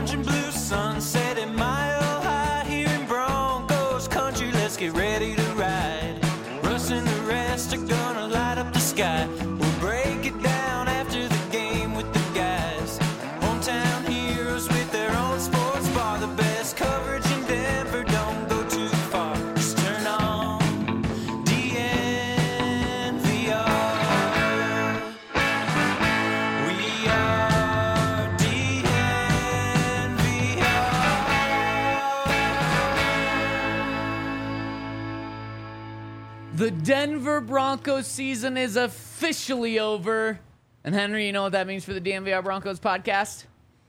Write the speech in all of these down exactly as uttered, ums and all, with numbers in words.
orange and blue sunset at Mile High here in Broncos country. Let's get ready to ride. Russ and the rest are gonna light up the sky. We'll break it down after the game with the guys. Hometown heroes with their own sports bar. The best coverage in Denver, don't go too far. Just turn on D N V R. We are D N V R. The Denver Broncos season is officially over. And Henry, you know what that means for the D N V R Broncos podcast?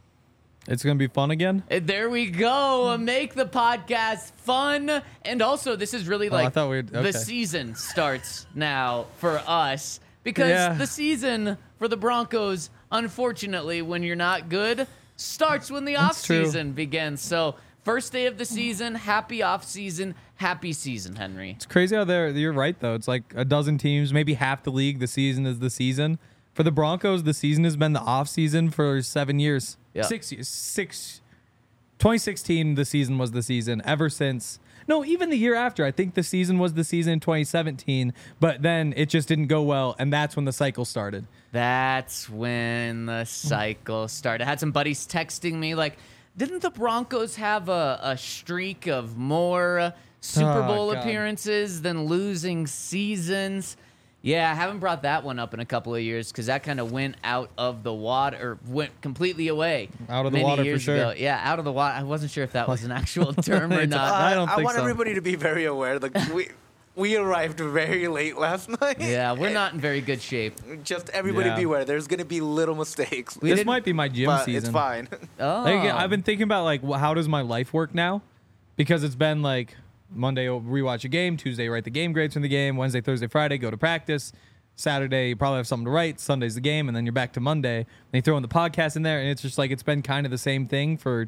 It's going to be fun again? Uh, There we go. Make the podcast fun. And also, this is really Oh, I like thought we'd- okay. the season starts now for us. Because Yeah. the season for the Broncos, unfortunately, when you're not good, starts when the That's true. offseason begins. So, first day of the season, happy offseason, happy season, Henry. It's crazy how they're, you're right, though. It's like a dozen teams, maybe half the league, the season is the season. For the Broncos, the season has been the offseason for seven years. Yeah. Six years. Six. twenty sixteen, the season was the season. Ever since. No, even the year after. I think the season was the season in twenty seventeen, but then it just didn't go well, and that's when the cycle started. That's when the cycle started. I had some buddies texting me like, didn't the Broncos have a, a streak of more Super Oh, Bowl God. appearances than losing seasons? Yeah, I haven't brought that one up in a couple of years because that kind of went out of the water, or went completely away. Out of the many water for years sure. ago. Yeah, out of the water. I wasn't sure if that was an actual term or It's- not. I don't I think want so. everybody to be very aware. Like we, we arrived very late last night. Yeah, we're not in very good shape. Just everybody Yeah. be aware. There's gonna be little mistakes, We this didn't- might be my gym but season. it's fine. Oh, Like, I've been thinking about like wh- how does my life work now? Because it's been like Monday I'll rewatch a game, Tuesday write the game grades from the game, Wednesday, Thursday, Friday go to practice, Saturday you probably have something to write, Sunday's the game, and then you're back to Monday. And you throw in the podcast in there, and it's just like it's been kind of the same thing for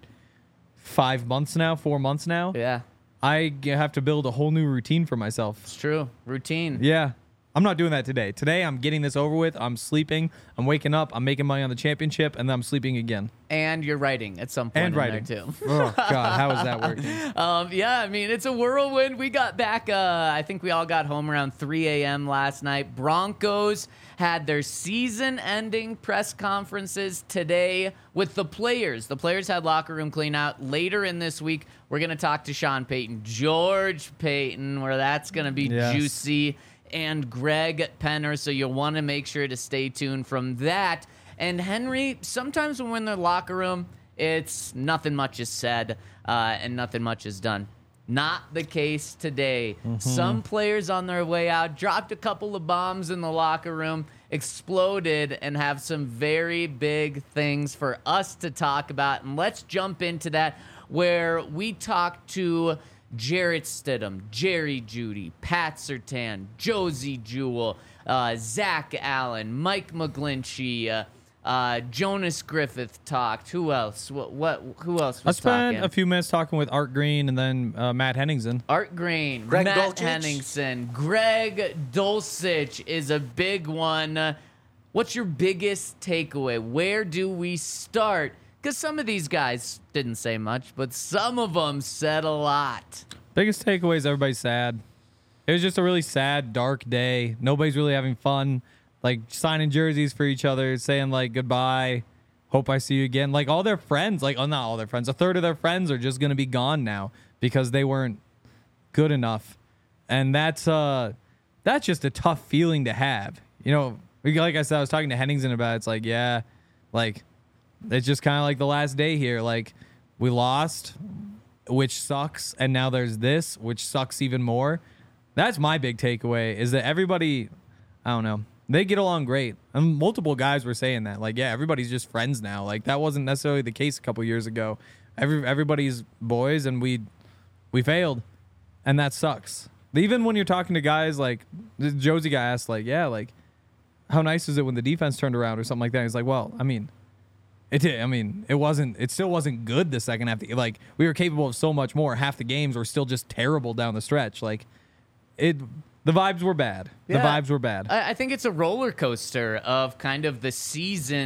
five months now, four months now. yeah, I g- have to build a whole new routine for myself. it's true. Routine. Yeah. I'm not doing that today. Today I'm getting this over with. I'm sleeping. I'm waking up. I'm making money on the championship, and then I'm sleeping again. And you're writing at some point And in writing. there too. Oh God, how is that working? Um, yeah, I mean, it's a whirlwind. We got back, uh, I think we all got home around three a.m. last night. Broncos had their season-ending press conferences today with the players. The players had locker room clean out. Later in this week, we're going to talk to Sean Payton, George Payton, where that's going to be Yes. juicy, and Greg Penner, so you'll want to make sure to stay tuned from that. And Henry, sometimes when we're in the locker room, it's nothing much is said uh, and nothing much is done. Not the case today. Some players on their way out dropped a couple of bombs in the locker room, exploded, and have some very big things for us to talk about. And let's jump into that, where we talk to Jarrett Stidham, Jerry Jeudy, Pat Surtain, Josie Jewell, uh, Zach Allen, Mike McGlinchey, uh, uh, Jonas Griffith talked. Who else? What? what who else I was spent talking? a few minutes talking with Art Green and then uh, Matt Henningsen. Art Green, Greg Matt Dulcich. Henningsen, Greg Dulcich is a big one. Uh, What's your biggest takeaway? Where do we start? Because some of these guys didn't say much, but some of them said a lot. Biggest takeaway is everybody's sad. It was just a really sad, dark day. Nobody's really having fun. Like signing jerseys for each other, saying like goodbye, hope I see you again. Like all their friends, like oh not all their friends, a third of their friends are just gonna be gone now because they weren't good enough, and that's uh that's just a tough feeling to have. You know, like I said, I was talking to Henningsen about it. It's like yeah, like it's just kind of like the last day here. Like we lost, which sucks, and now there's this, which sucks even more. That's my big takeaway is that everybody, I don't know, they get along great. And multiple guys were saying that. Like, yeah, everybody's just friends now. Like, that wasn't necessarily the case a couple years ago. Every Everybody's boys, and we we failed, and that sucks. Even when you're talking to guys like, the Josie guy asked, like, yeah, like, how nice is it when the defense turned around or something like that? He's like, well, I mean, it did. I mean, it wasn't, it still wasn't good the second half. Like, we were capable of so much more. Half the games were still just terrible down the stretch. Like, it, the vibes were bad. The Yeah. vibes were bad. I, I think it's a roller coaster of kind of the season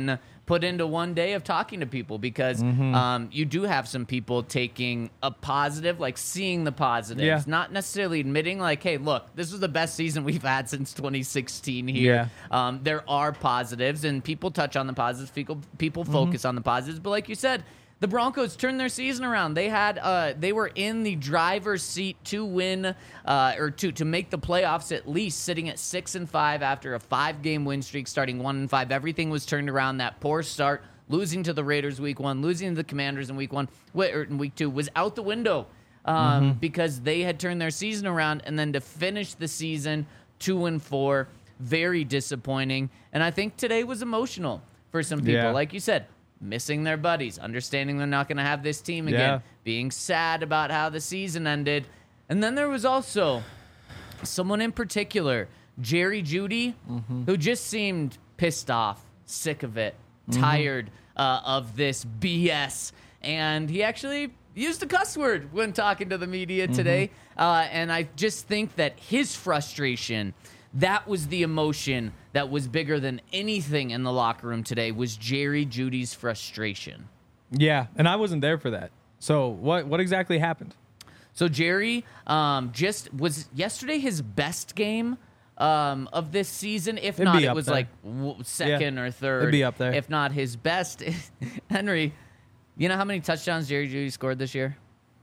put into one day of talking to people because Mm-hmm. um, you do have some people taking a positive, like seeing the positives, Yeah. not necessarily admitting like, hey, look, this was the best season we've had since twenty sixteen here. Yeah. Um, there are positives, and people touch on the positives. People, people Mm-hmm. focus on the positives. But like you said, the Broncos turned their season around. They had, uh, they were in the driver's seat to win, uh, or to to make the playoffs at least, sitting at six and five after a five-game win streak, starting one and five. Everything was turned around. That poor start, losing to the Raiders week one, losing to the Commanders in week one, wi- or in week two, was out the window um, because they had turned their season around, and then to finish the season two and four, very disappointing. And I think today was emotional for some people, Yeah. like you said. Missing their buddies, understanding they're not going to have this team again, Yeah. being sad about how the season ended. And then there was also someone in particular, Jerry Jeudy, who just seemed pissed off, sick of it, tired uh, of this B S. And he actually used a cuss word when talking to the media today. Uh, and I just think that his frustration, that was the emotion that was bigger than anything in the locker room today, was Jerry Jeudy's frustration. Yeah, and I wasn't there for that. So what what exactly happened? So Jerry um, just was yesterday his best game um, of this season. If It'd not, be it up was there. like w- second or third. It'd be up there. If not his best. Henry, you know how many touchdowns Jerry Jeudy scored this year?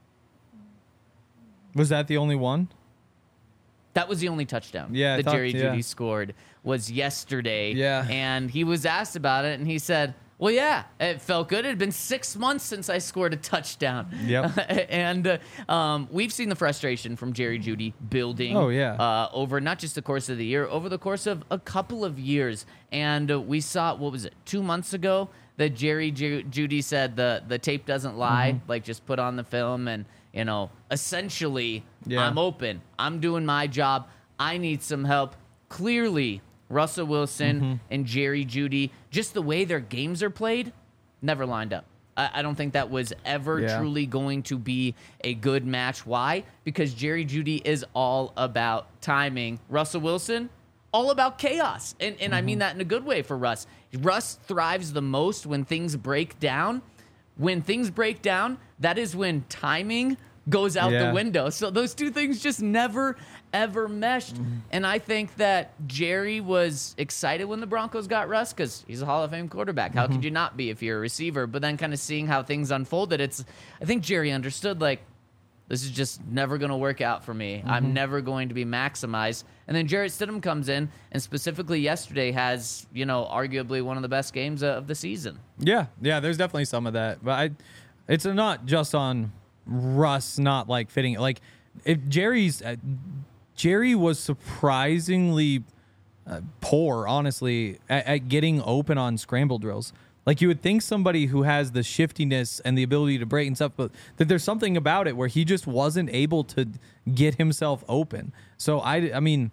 Was that the only one? That was the only touchdown Yeah, I that thought- Jerry yeah. Jeudy scored was yesterday. Yeah. And he was asked about it, and he said, well, yeah, it felt good. It had been six months since I scored a touchdown. Yep. and uh, um, we've seen the frustration from Jerry Jeudy building Oh, yeah. uh, over not just the course of the year, over the course of a couple of years. And uh, we saw, what was it, two months ago, that Jerry Ju- Jeudy said the, the tape doesn't lie, Mm-hmm. like just put on the film and, you know, essentially, Yeah. I'm open. I'm doing my job. I need some help. Clearly, Russell Wilson Mm-hmm. and Jerry Jeudy, just the way their games are played, never lined up. I, I don't think that was ever Yeah. truly going to be a good match. Why? Because Jerry Jeudy is all about timing. Russell Wilson, all about chaos. And, and I mean that in a good way for Russ. Russ thrives the most when things break down. When things break down, that is when timing goes out Yeah. the window. So those two things just never, ever meshed. And I think that Jerry was excited when the Broncos got Russ because he's a Hall of Fame quarterback. How could you not be if you're a receiver? But then kind of seeing how things unfolded, it's I think Jerry understood, like, this is just never going to work out for me. I'm never going to be maximized. And then Jarrett Stidham comes in and specifically yesterday has, you know, arguably one of the best games uh, of the season. Yeah, yeah. There's definitely some of that, but I, it's not just on Russ not like fitting. Like if Jerry's, uh, Jerry was surprisingly uh, poor, honestly, at, at getting open on scramble drills. Like you would think somebody who has the shiftiness and the ability to break and stuff, but that there's something about it where he just wasn't able to get himself open. So I, I mean.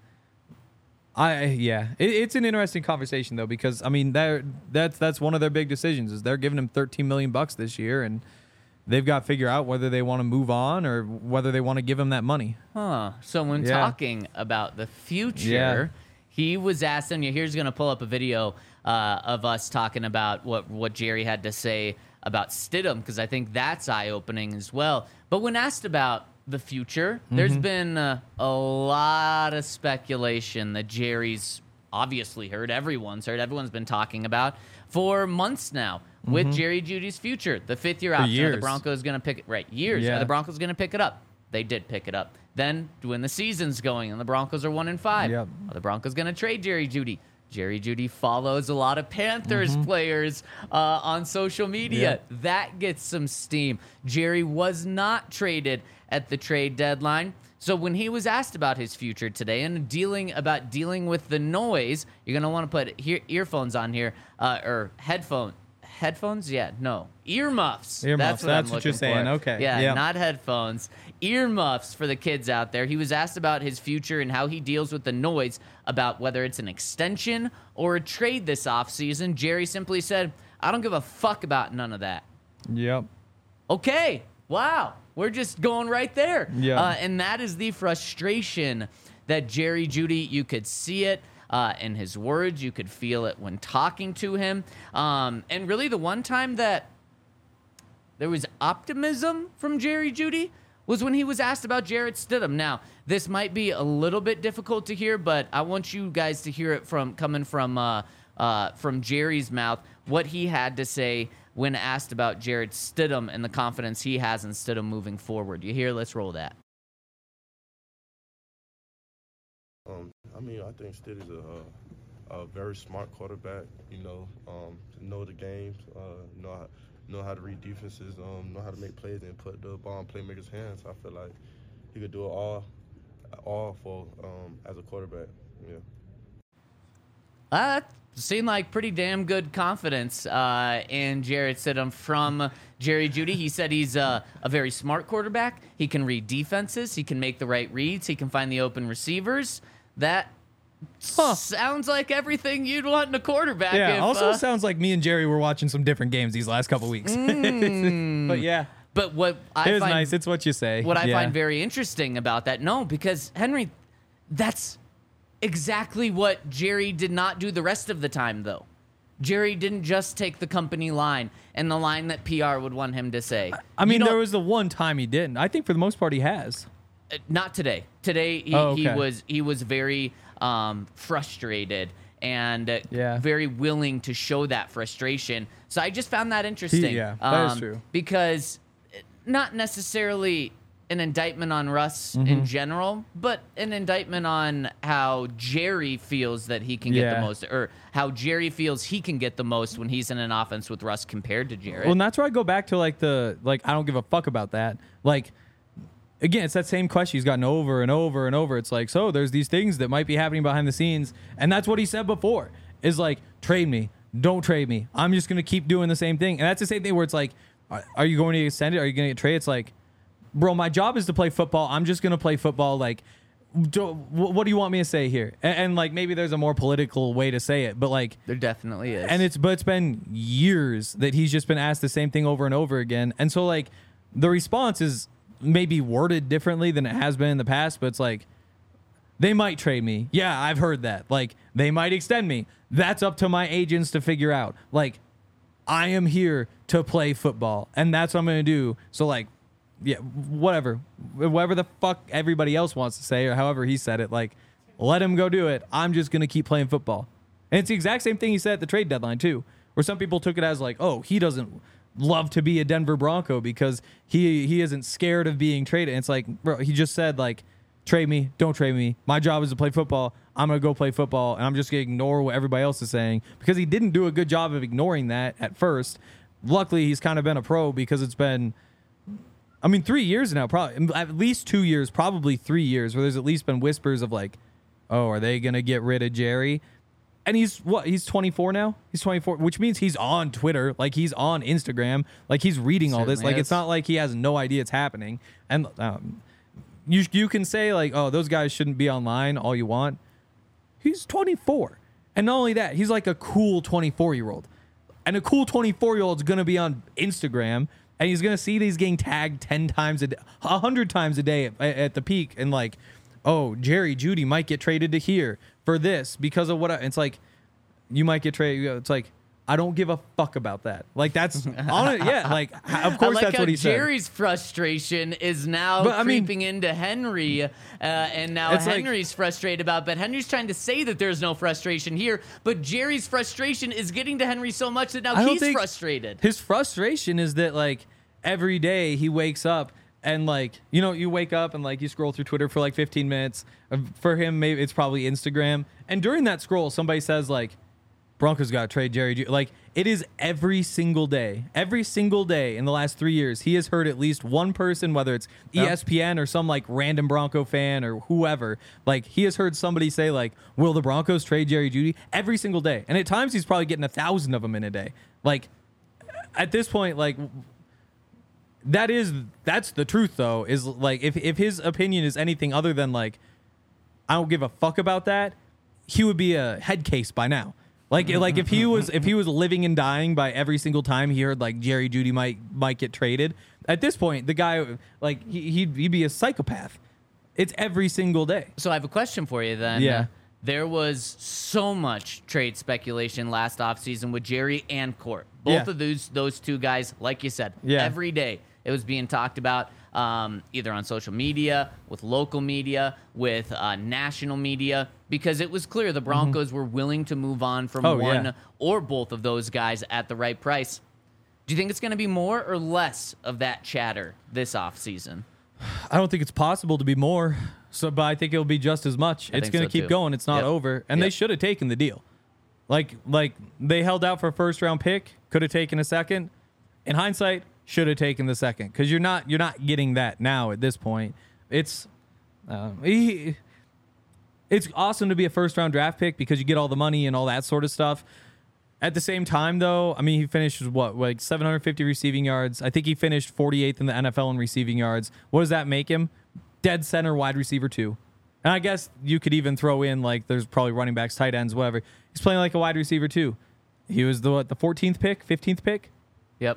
I yeah, it, it's an interesting conversation though because I mean that that's that's one of their big decisions is they're giving him thirteen million bucks this year and they've got to figure out whether they want to move on or whether they want to give him that money. Huh. So when Yeah. talking about the future, Yeah. he was asked, and here's going to pull up a video uh, of us talking about what, what Jerry had to say about Stidham, because I think that's eye-opening as well. But when asked about the future, there's been uh, a lot of speculation that Jerry's obviously heard, everyone's heard, everyone's been talking about for months now with Jerry Jeudy's future. The fifth year option, are the years. Broncos going to pick it? Right, years. Yeah. Are the Broncos going to pick it up? They did pick it up. Then when the season's going and the Broncos are one and five, Yep. are the Broncos going to trade Jerry Jeudy? Jerry Jeudy follows a lot of Panthers players uh, on social media. Yeah. That gets some steam. Jerry was not traded at the trade deadline. So when he was asked about his future today and dealing about dealing with the noise, you're going to want to put hear, earphones on here uh, or headphone headphones? Yeah, no. Earmuffs. Earmuffs, That's what, that's I'm what you're looking saying. for. Okay. Yeah, Yeah. not headphones. Earmuffs for the kids out there. He was asked about his future and how he deals with the noise about whether it's an extension or a trade this offseason. Jerry simply said, I don't give a fuck about none of that. Yep. Okay. Wow. We're just going right there. Yeah. Uh, and that is the frustration that Jerry Jeudy, you could see it. uh, in his words. You could feel it when talking to him. Um, and really, the one time that there was optimism from Jerry Jeudy was when he was asked about Jarrett Stidham. Now, this might be a little bit difficult to hear, but I want you guys to hear it from coming from uh, uh, from Jerry's mouth, what he had to say when asked about Jarrett Stidham and the confidence he has in Stidham moving forward. You hear? Let's roll that. Um, I mean, I think Stidham's a, a very smart quarterback. You know, um, know the games, uh, know how, know how to read defenses, um, know how to make plays and put the ball in playmakers' hands. I feel like he could do it all, all for um, as a quarterback. Yeah. Uh, seemed like pretty damn good confidence uh, in Jarrett Stidham from Jerry Jeudy. He said he's uh, a very smart quarterback. He can read defenses. He can make the right reads. He can find the open receivers. That huh. sounds like everything you'd want in a quarterback. Yeah, if, also uh, sounds like me and Jerry were watching some different games these last couple weeks. Mm. But yeah. But what I It was find, nice. It's what you say. What I yeah. find very interesting about that, no, because Henry, that's exactly what Jerry did not do the rest of the time, though. Jerry didn't just take the company line and the line that P R would want him to say. I mean, You there don't- was the one time he didn't. I think for the most part he has. Uh, Not today. Today he, Oh, he okay. was he was very um, frustrated and uh, Yeah. very willing to show that frustration. So I just found that interesting. yeah, that is um, true. Because uh, not necessarily an indictment on Russ Mm-hmm. in general, but an indictment on how Jerry feels that he can get Yeah. the most, or how Jerry feels he can get the most when he's in an offense with Russ compared to Jarrett. Well, and that's where I go back to like the like I don't give a fuck about that. Like again, it's that same question he's gotten over and over and over. It's like, so there's these things that might be happening behind the scenes, and that's what he said before. Is like, trade me, don't trade me. I'm just gonna keep doing the same thing, and that's the same thing where it's like, are, are you going to get extended? Are you gonna get traded? It's like, bro, my job is to play football. I'm just gonna play football. Like, do, wh- what do you want me to say here? And, and like maybe there's a more political way to say it, but like. There definitely is. And it's but it's been years that he's just been asked the same thing over and over again. And so like the response is maybe worded differently than it has been in the past, but it's like they might trade me. Yeah, I've heard that. Like they might extend me. That's up to my agents to figure out. Like I am here to play football and that's what I'm going to do. So like yeah, whatever. Whatever the fuck everybody else wants to say or however he said it, like let him go do it. I'm just going to keep playing football. And it's the exact same thing he said at the trade deadline, too, where some people took it as like, oh, he doesn't love to be a Denver Bronco because he he isn't scared of being traded. And it's like, bro, he just said, like, trade me, don't trade me. My job is to play football. I'm going to go play football, and I'm just going to ignore what everybody else is saying because he didn't do a good job of ignoring that at first. Luckily, he's kind of been a pro because it's been, I mean, three years now, probably at least two years, probably three years, where there's at least been whispers of like, oh, are they going to get rid of Jerry? And he's what? He's twenty-four now. He's twenty-four, which means he's on Twitter, like he's on Instagram, like he's reading all this. Certainly Like is. it's not like he has no idea it's happening. And um, you you can say like, oh, those guys shouldn't be online all you want. He's twenty-four, and not only that, he's like a cool twenty-four year old, and a cool twenty-four year old is gonna be on Instagram, and he's gonna see these getting tagged ten times a day, a hundred times a day at, at the peak, and like, oh, Jerry Jeudy might get traded to here for this because of what I, it's like you might get traded. It's like I don't give a fuck about that. Like that's on it. Yeah, like of course I like that's how what he Jerry's frustration is now But, I mean- creeping into Henry, uh, and now It's like- Henry's frustrated about. But Henry's trying to say that there's no frustration here, but Jerry's frustration is getting to Henry so much that now I don't he's think- frustrated. said. His frustration is that like every day he wakes up and like you know you wake up and like you scroll through Twitter for like fifteen minutes. Uh, For him, maybe it's probably Instagram, and during that scroll, somebody says like, Broncos got to trade Jerry. Ju-" Like it is every single day, every single day in the last three years, he has heard at least one person, whether it's E S P N or some like random Bronco fan or whoever, like he has heard somebody say like, "Will the Broncos trade Jerry Jeudy?" Every single day, and at times he's probably getting a thousand of them in a day. Like at this point, like that is that's the truth though. Is like if if his opinion is anything other than like, I don't give a fuck about that, he would be a head case by now. Like like if he was if he was living and dying by every single time he heard like Jerry Jeudy might might get traded, at this point the guy like he, he'd he'd be a psychopath. It's every single day. So I have a question for you then. Yeah. there was so much trade speculation last offseason with Jerry and Court. Both Yeah. of those those two guys, like you said, Yeah. every day it was being talked about, um, either on social media, with local media, with uh, national media, because it was clear the Broncos were willing to move on from Oh, one yeah. or both of those guys at the right price. Do you think it's going to be more or less of that chatter this offseason? I don't think it's possible to be more. So, but I think it'll be just as much. I It's think going so, to keep too. going. It's not Yep. over. And they Yep. should have taken the deal. Like, like they held out for a first round pick. Could have taken a second. In hindsight, should have taken the second because you're not you're not getting that now at this point. It's uh, he, it's awesome to be a first round draft pick because you get all the money and all that sort of stuff. At the same time, though, I mean, he finished what, like seven hundred fifty receiving yards. I think he finished forty-eighth in the N F L in receiving yards. What does that make him? Dead center wide receiver two. And I guess you could even throw in like there's probably running backs, tight ends, whatever. He's playing like a wide receiver too. He was the what, the fourteenth pick, fifteenth pick. Yep.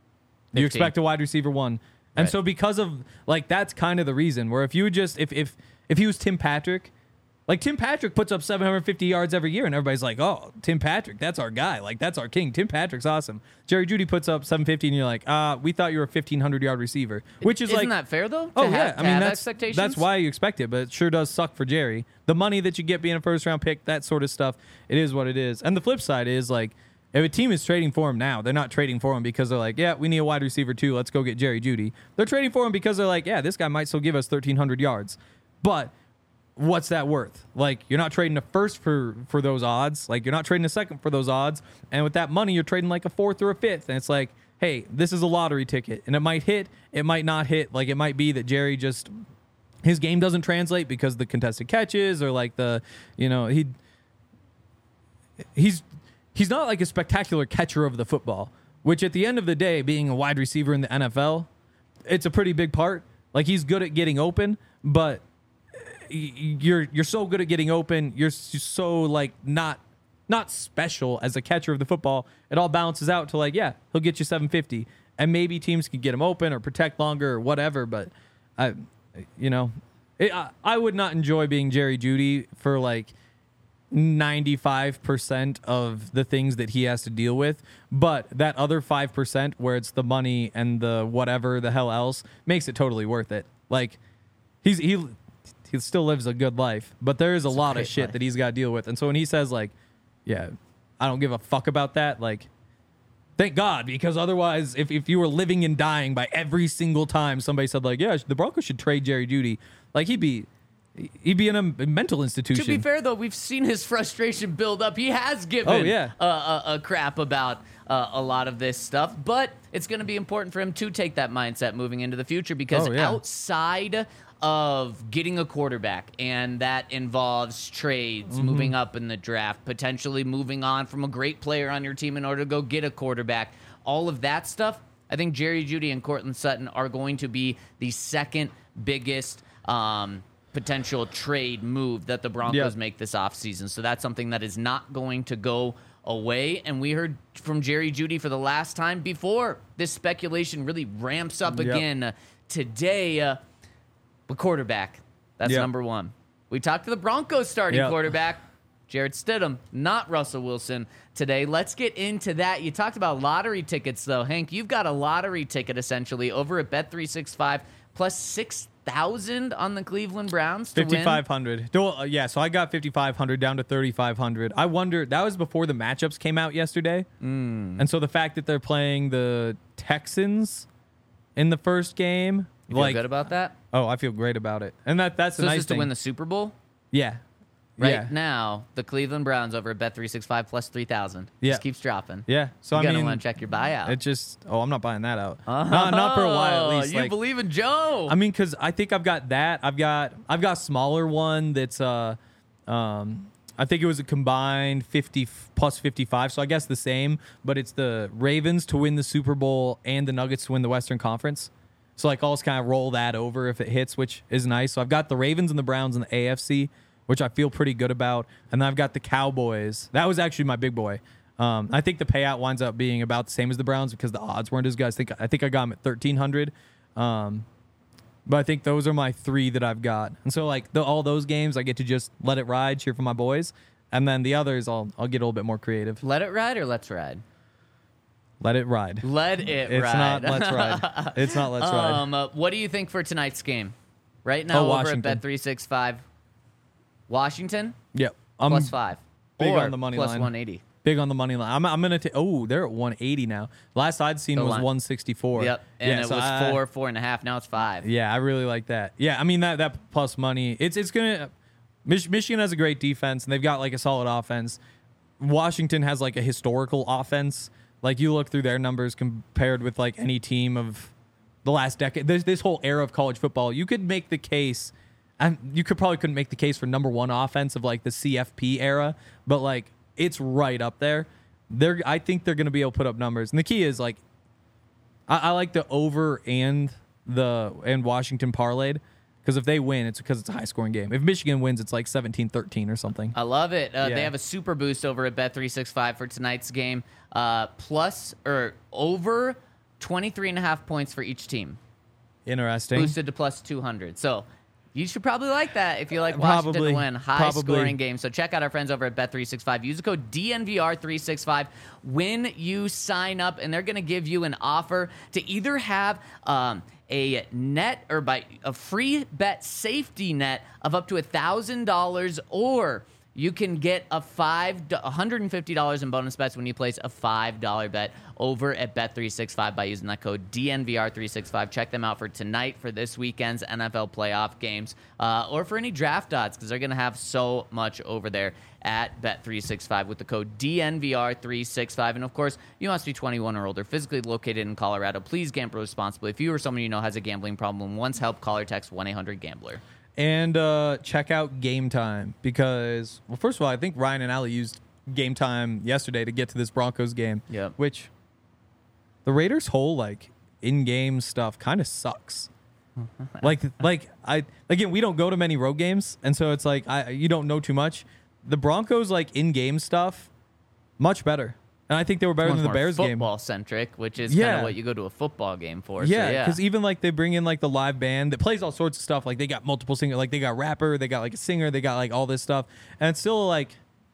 You fifteen. expect a wide receiver one. And Right. so because of like that's kind of the reason where if you would just if if if he was Tim Patrick, like Tim Patrick puts up seven hundred fifty yards every year and everybody's like, "Oh, Tim Patrick, that's our guy. Like that's our king. Tim Patrick's awesome." Jerry Jeudy puts up seven fifty and you're like, "Uh, we thought you were a fifteen hundred yard receiver." Which is Isn't like that fair, though? to Oh have, yeah, to I mean have that's expectations? that's why you expect it, but it sure does suck for Jerry. The money that you get being a first round pick, that sort of stuff, it is what it is. And the flip side is like if a team is trading for him now, they're not trading for him because they're like, yeah, we need a wide receiver too. Let's go get Jerry Jeudy. They're trading for him because they're like, yeah, this guy might still give us thirteen hundred yards. But what's that worth? Like you're not trading a first for for those odds. Like you're not trading a second for those odds. And with that money, you're trading like a fourth or a fifth. And it's like, hey, this is a lottery ticket, and it might hit, it might not hit. Like it might be that Jerry just his game doesn't translate because the contested catches or like the, you know, he he's he's not like a spectacular catcher of the football, which at the end of the day, being a wide receiver in the N F L, it's a pretty big part. Like he's good at getting open, but you're you're so good at getting open, you're so like not not special as a catcher of the football. It all balances out to like, yeah, he'll get you seven fifty, and maybe teams can get him open or protect longer or whatever. But I, you know, it, I, I would not enjoy being Jerry Jeudy for like ninety-five percent of the things that he has to deal with, but that other five percent where it's the money and the whatever the hell else makes it totally worth it. Like he's he he still lives a good life, but there is a lot of great shit life. that he's got to deal with. And so when he says like, yeah, I don't give a fuck about that, like thank God, because otherwise if, if you were living and dying by every single time somebody said like, yeah, the Broncos should trade Jerry Jeudy, like he'd be he'd be in a mental institution. To be fair, though, we've seen his frustration build up. He has given Oh, yeah. a, a, a crap about uh, a lot of this stuff, but it's going to be important for him to take that mindset moving into the future because Oh, yeah. outside of getting a quarterback, and that involves trades, Mm-hmm. moving up in the draft, potentially moving on from a great player on your team in order to go get a quarterback, all of that stuff, I think Jerry Jeudy and Courtland Sutton are going to be the second biggest um, potential trade move that the Broncos Yeah. make this offseason. So that's something that is not going to go away. And we heard from Jerry Jeudy for the last time before this speculation really ramps up Yep. again uh, today. Uh, but quarterback, that's Yep. number one. We talked to the Broncos starting Yep. quarterback, Jarrett Stidham, not Russell Wilson today. Let's get into that. You talked about lottery tickets, though. Hank, you've got a lottery ticket, essentially, over at Bet three sixty-five, plus six thousand on the Cleveland Browns to win. fifty-five hundred. Uh, yeah, so I got fifty-five hundred down to thirty-five hundred. I wonder, that was before the matchups came out yesterday. Mm. And so the fact that they're playing the Texans in the first game, You feel like, good about that? oh, I feel great about it. And that that's So a this nice is to thing. win the Super Bowl? yeah. Right Yeah. now, the Cleveland Browns over at Bet three sixty-five plus three thousand. Yeah. Just keeps dropping. Yeah. So You're I going to mean, want to check your buyout. it just, oh, I'm not buying that out. Not, not for a while at least. You like, believe in Joe. I mean, because I think I've got that. I've got I've got a smaller one that's uh, um, I think it was a combined fifty f- plus fifty-five, so I guess the same. But it's the Ravens to win the Super Bowl and the Nuggets to win the Western Conference. So like I'll just kind of roll that over if it hits, which is nice. So I've got the Ravens and the Browns in the A F C, which I feel pretty good about, and then I've got the Cowboys. That was actually my big boy. Um, I think the payout winds up being about the same as the Browns because the odds weren't as good. I think I think I got them at thirteen hundred. Um, But I think those are my three that I've got. And so, like, the, all those games, I get to just let it ride, cheer for my boys. And then the others, I'll I'll get a little bit more creative. Let it ride or let's ride? Let it ride. Let it It's ride. not let's ride. It's not let's ride. Um, uh, what do you think for tonight's game? Right now, Oh, over Washington. at Bet three sixty-five, Washington Yep. I'm plus five, big or on the money plus line. one eighty. big on the money line. I'm, I'm going to take, oh, they're at one eighty now. Last I'd seen The was line. one sixty-four. Yep, and Yeah, it so was I- four, four and a half. Now it's five. Yeah, I really like that. Yeah, I mean, that, that plus money, it's, it's going to, Mich- Michigan has a great defense, and they've got like a solid offense. Washington has like a historical offense. Like, you look through their numbers compared with like any team of the last decade, this, this whole era of college football, you could make the case, and you could probably couldn't make the case for number one offense of like the C F P era, but like it's right up there. They're, I think they're going to be able to put up numbers, and the key is like, I, I like the over and the and Washington parlayed. Because if they win, it's because it's a high-scoring game. If Michigan wins, it's like seventeen thirteen or something. I love it. Uh, Yeah. They have a super boost over at Bet three sixty-five for tonight's game. Uh, plus or over twenty-three and a half points for each team. Interesting. Boosted to plus two hundred. So you should probably like that if you like Washington Probably. to win. High Probably. scoring game. So check out our friends over at Bet three sixty-five. Use the code D N V R three sixty-five when you sign up, and they're going to give you an offer to either have um, a net or by a free bet safety net of up to one thousand dollars, or you can get a five one hundred fifty dollars in bonus bets when you place a five dollar bet over at Bet three sixty-five by using that code D N V R three sixty-five. Check them out for tonight for this weekend's N F L playoff games, uh, or for any draft odds, because they're going to have so much over there at Bet three sixty-five with the code D N V R three sixty-five. And of course, you must be twenty-one or older, physically located in Colorado. Please gamble responsibly. If you or someone you know has a gambling problem, once help, call or text one eight hundred gambler. And uh, check out Game Time because, well, first of all, I think Ryan and Allie used Game Time yesterday to get to this Broncos game. Yep. Which the Raiders' whole like in-game stuff kind of sucks. like, like I again, we don't go to many road games, and so it's like I you don't know too much. The Broncos like in-game stuff much better, and I think they were better Much than the more Bears game. football centric, which is kind Yeah. of what you go to a football game for. So, Yeah, yeah, because even like they bring in like the live band that plays all sorts of stuff. Like they got multiple singers, like they got rapper, they got like a singer, they got like all this stuff, and it's still like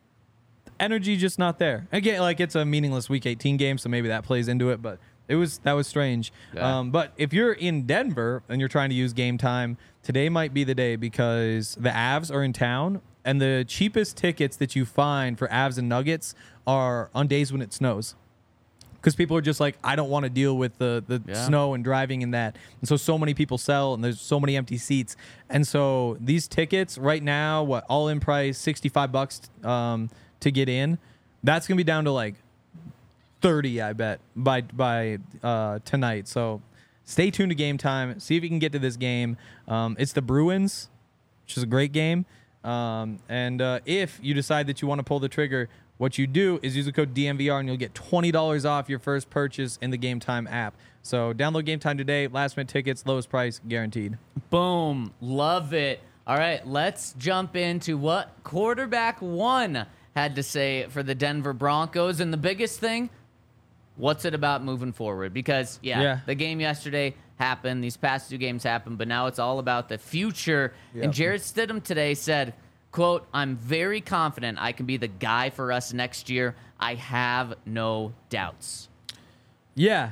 energy just not there. Again, like it's a meaningless Week eighteen game, so maybe that plays into it. But it was that was strange. Yeah. Um, but if you're in Denver and you're trying to use Game Time, today might be the day because the Avs are in town, and the cheapest tickets that you find for Avs and Nuggets are on days when it snows. Because people are just like, I don't want to deal with the, the Yeah. snow and driving in that. And so, so many people sell, and there's so many empty seats. And so, these tickets right now, what, all in price, sixty-five bucks um, to get in. That's going to be down to like thirty, I bet, by by uh, tonight. So, stay tuned to Game Time. See if you can get to this game. Um, it's the Bruins, which is a great game. Um, and uh, if you decide that you want to pull the trigger, what you do is use the code D N V R and you'll get twenty dollars off your first purchase in the Game Time app. So download Game Time today. Last minute tickets, lowest price guaranteed. Boom. Love it. All right, let's jump into what quarterback one had to say for the Denver Broncos. And the biggest thing, what's it about moving forward? Because, yeah, Yeah. the game yesterday happened. These past two games happened, but now it's all about the future. Yep. And Jarrett Stidham today said, quote, I'm very confident I can be the guy for us next year. I have no doubts. Yeah.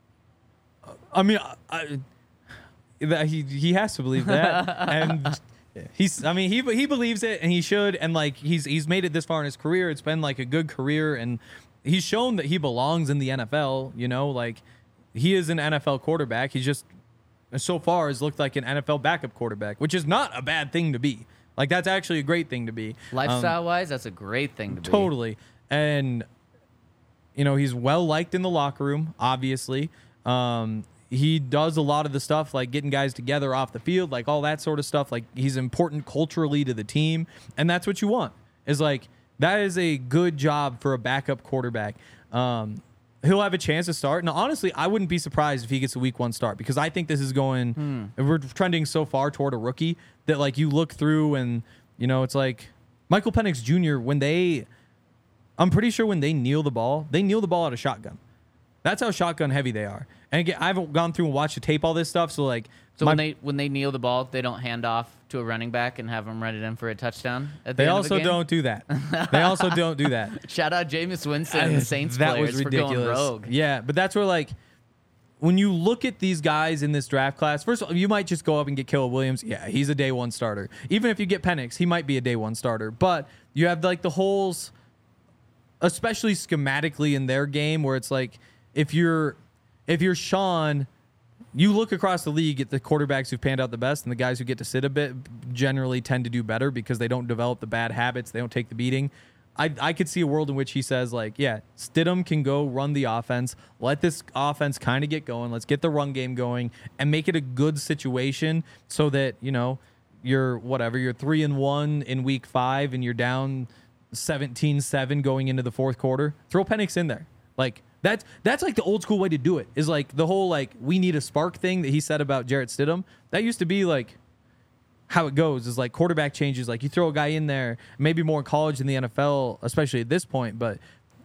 I mean, I, I, that he he has to believe that, and he's. I mean, he he believes it, and he should. And like he's he's made it this far in his career. It's been like a good career, and he's shown that he belongs in the N F L. You know, like he is an N F L quarterback. He's just so far has looked like an N F L backup quarterback, which is not a bad thing to be. Like that's actually a great thing to be. Um, Lifestyle-wise, that's a great thing to be. Totally. And, you know, he's well liked in the locker room, obviously. Um, he does a lot of the stuff like getting guys together off the field, like all that sort of stuff. Like he's important culturally to the team. And that's what you want is like that is a good job for a backup quarterback. Um, he'll have a chance to start. Now, honestly, I wouldn't be surprised if he gets a week one start because I think this is going, Hmm. we're trending so far toward a rookie that like you look through and, you know, it's like Michael Penix Junior, when they, I'm pretty sure when they kneel the ball, they kneel the ball out of shotgun. That's how shotgun heavy they are. And again, I haven't gone through and watched the tape, all this stuff. So like, So my- when they when they kneel the ball, they don't hand off to a running back and have him run it in for a touchdown. At the they end also of a game? don't do that. They also don't do that. Shout out Jameis Winston and the Saints that players was for going ridiculous. rogue. Yeah, but that's where like when you look at these guys in this draft class, first of all, you might just go up and get Caleb Williams. Yeah, he's a day one starter. Even if you get Penix, he might be a day one starter. But you have like the holes, especially schematically in their game, where it's like if you're if you're Sean, you look across the league at the quarterbacks who've panned out the best, and the guys who get to sit a bit generally tend to do better because they don't develop the bad habits. They don't take the beating. I, I could see a world in which he says, like, yeah, Stidham can go run the offense. Let this offense kind of get going. Let's get the run game going and make it a good situation so that, you know, you're whatever, you're three and one in week five and you're down seventeen seven going into the fourth quarter. Throw Penix in there. Like, that's that's like the old school way to do it, is like the whole, like, we need a spark thing that he said about Jarrett Stidham. That used to be like how it goes, is like quarterback changes. Like you throw a guy in there, maybe more in college than the N F L, especially at this point. But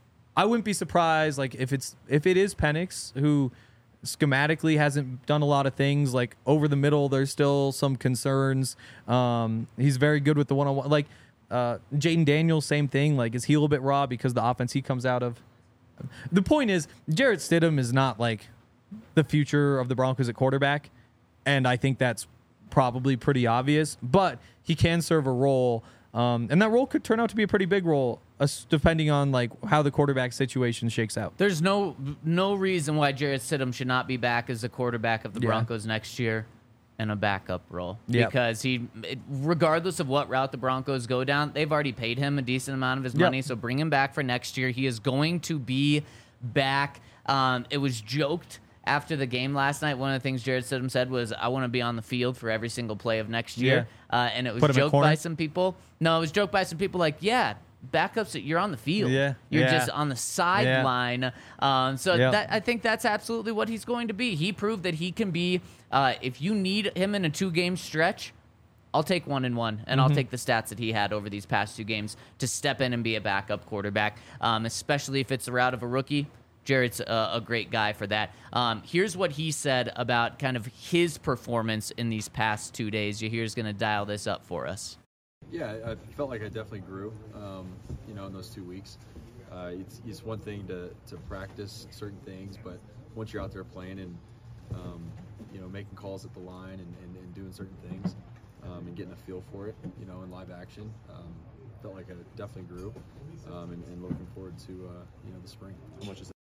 I wouldn't be surprised, like if it's if it is Penix, who schematically hasn't done a lot of things. Like over the middle, there's still some concerns. Um, he's very good with the one-on-one. Like uh, Jaden Daniels, same thing. Like is he a little bit raw because the offense he comes out of? The point is, Jarrett Stidham is not like the future of the Broncos at quarterback, and I think that's probably pretty obvious. But he can serve a role, um, and that role could turn out to be a pretty big role, uh, depending on like how the quarterback situation shakes out. There's no no reason why Jarrett Stidham should not be back as the quarterback of the Yeah. Broncos next year in a backup role. Yep. Because he, it, regardless of what route the Broncos go down, they've already paid him a decent amount of his Yep. money. So bring him back for next year. He is going to be back. Um, it was joked after the game last night. One of the things Jarrett Stidham said was, I want to be on the field for every single play of next year. Uh, and it was Put him at joked corner? by some people. No, it was joked by some people like, yeah, backups, you're on the field. Yeah, You're yeah. just on the sideline. Um, so Yeah. that I think that's absolutely what he's going to be. He proved that he can be, uh, if you need him in a two-game stretch, I'll take one and one, and Mm-hmm. I'll take the stats that he had over these past two games to step in and be a backup quarterback, um, especially if it's the route of a rookie. Jarrett's a, a great guy for that. Um, here's what he said about kind of his performance in these past two days. Yahir's going to dial this up for us. Yeah, I felt like I definitely grew, um, you know, in those two weeks. Uh, it's, it's one thing to, to practice certain things, but once you're out there playing and, um, you know, making calls at the line and, and, and doing certain things um, and getting a feel for it, you know, in live action, um, felt like I definitely grew um, and, and looking forward to, uh, you know, the spring. How much is that?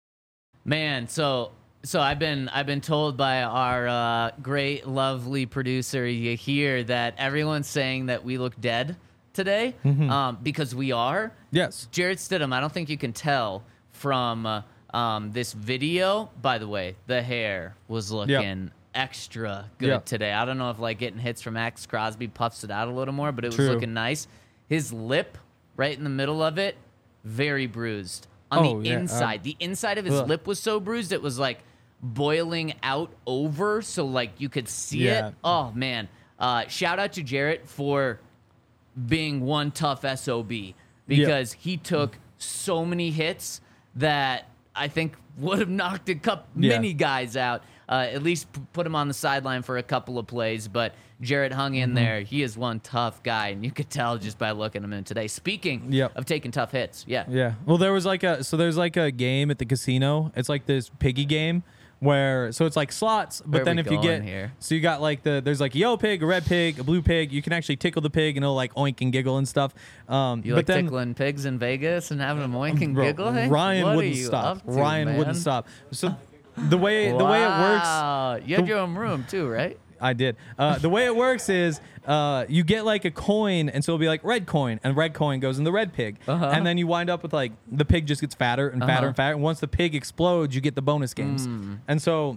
Man, so so I've been I've been told by our uh, great, lovely producer Yahir that everyone's saying that we look dead today, um, because we are. Yes. Jarrett Stidham, I don't think you can tell from uh, um, this video. By the way, the hair was looking extra good Yep. today. I don't know if like getting hits from Max Crosby puffs it out a little more, but it was True. looking nice. His lip, right in the middle of it, very bruised. On Oh, the yeah, um, inside, the inside of his ugh. lip was so bruised it was like boiling out over, so like you could see Yeah. it. Oh man! Uh, shout out to Jarrett for being one tough S O B because he took so many hits that I think would have knocked a couple Yeah. many guys out. Uh, at least p- put him on the sideline for a couple of plays, but Jarrett hung in Mm-hmm. there. He is one tough guy, and you could tell just by looking at him today. Speaking Yep. of taking tough hits, yeah. Yeah. Well, there was like a so there's like a game at the casino. It's like this piggy game where so it's like slots, but Where are then we if you going get here? so you got like the there's like a yellow pig, a red pig, a blue pig. You can actually tickle the pig and it'll like oink and giggle and stuff. Um, You but like then tickling pigs in Vegas and having them oink and Bro, giggle? Hey? Ryan What are wouldn't you stop. up to, Ryan man? wouldn't stop. So the way the way it works. Wow. You had your own room too, right? I did. Uh, the way it works is uh, you get like a coin, and so it'll be like red coin, and red coin goes in the red pig, Uh-huh. and then you wind up with like the pig just gets fatter and fatter Uh-huh. and fatter. And once the pig explodes, you get the bonus games. Mm. And so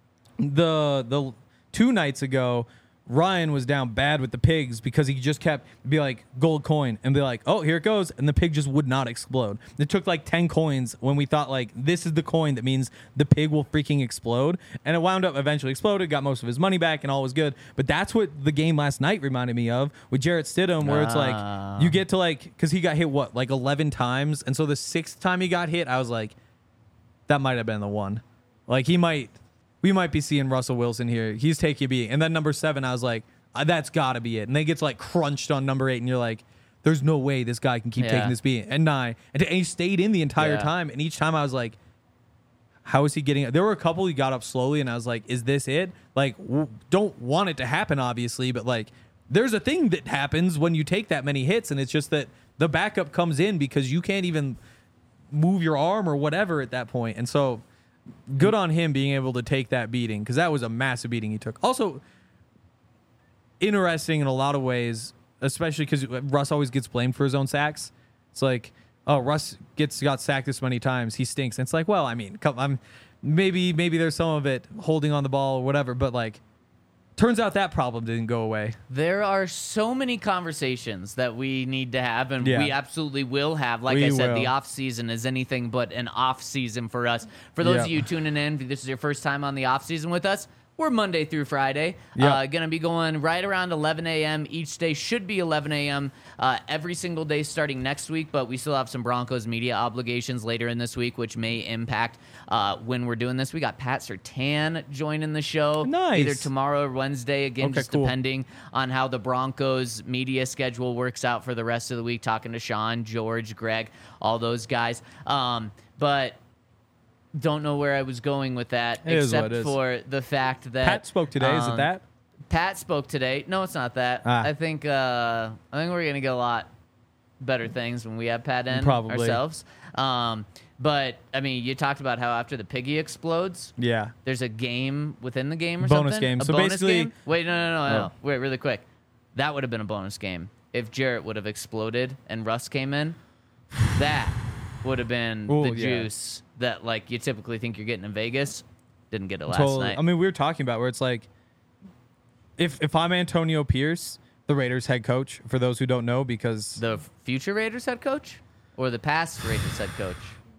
the the two nights ago, Ryan was down bad with the pigs because he just kept be like gold coin and be like, oh, here it goes, and the pig just would not explode. It took like ten coins when we thought like this is the coin that means the pig will freaking explode, and it wound up eventually exploded, got most of his money back, and all was good. But that's what the game last night reminded me of with Jarrett Stidham, where it's Ah. like you get to like because he got hit what like eleven times, and so the sixth time he got hit, I was like, that might have been the one. Like he might, we might be seeing Russell Wilson here. He's taking a beating. And then number seven, I was like, uh, that's got to be it. And then it gets like crunched on number eight, and you're like, there's no way this guy can keep Yeah. taking this beating. And nine, and, and he stayed in the entire Yeah. time. And each time I was like, how is he getting it? There were a couple he got up slowly, and I was like, is this it? Like, w- don't want it to happen, obviously, but like, there's a thing that happens when you take that many hits, and it's just that the backup comes in because you can't even move your arm or whatever at that point. And so, good on him being able to take that beating, because that was a massive beating he took. Also, interesting in a lot of ways, especially because Russ always gets blamed for his own sacks. It's like, oh, Russ gets got sacked this many times, he stinks. And it's like, well, I mean, come, I'm maybe maybe there's some of it holding on the ball or whatever, but like, turns out that problem didn't go away. There are so many conversations that we need to have, and Yeah. we absolutely will have. Like We I said, will. the off season is anything but an off season for us. For those Yep. of you tuning in, if this is your first time on the off season with us, we're Monday through Friday. Yep. Uh, going to be going right around eleven a.m. each day. Should be eleven a.m. Uh, every single day starting next week, but we still have some Broncos media obligations later in this week, which may impact uh, when we're doing this. We got Pat Surtain joining the show. Nice. Either tomorrow or Wednesday, again, Okay, just cool. depending on how the Broncos media schedule works out for the rest of the week, talking to Sean, George, Greg, all those guys. Um, but don't know where I was going with that, It is except what it is. for the fact that Pat spoke today. Is it um, that? Pat spoke today. No, it's not that. Ah. I think uh, I think we're gonna get a lot better things when we have Pat in Probably. ourselves. Um, but I mean, you talked about how after the piggy explodes, Yeah. there's a game within the game or Bonus something. game. A So bonus basically- game? Wait, no, no, no, no. Oh. Wait, really quick. That would have been a bonus game if Jarrett would have exploded and Russ came in. That would have been Ooh, the yeah. juice that like you typically think you're getting in Vegas. Didn't get it last Totally. night. I mean, we were talking about where it's like, if if I'm Antonio Pierce, the Raiders head coach, for those who don't know, because the future Raiders head coach or the past Raiders head coach?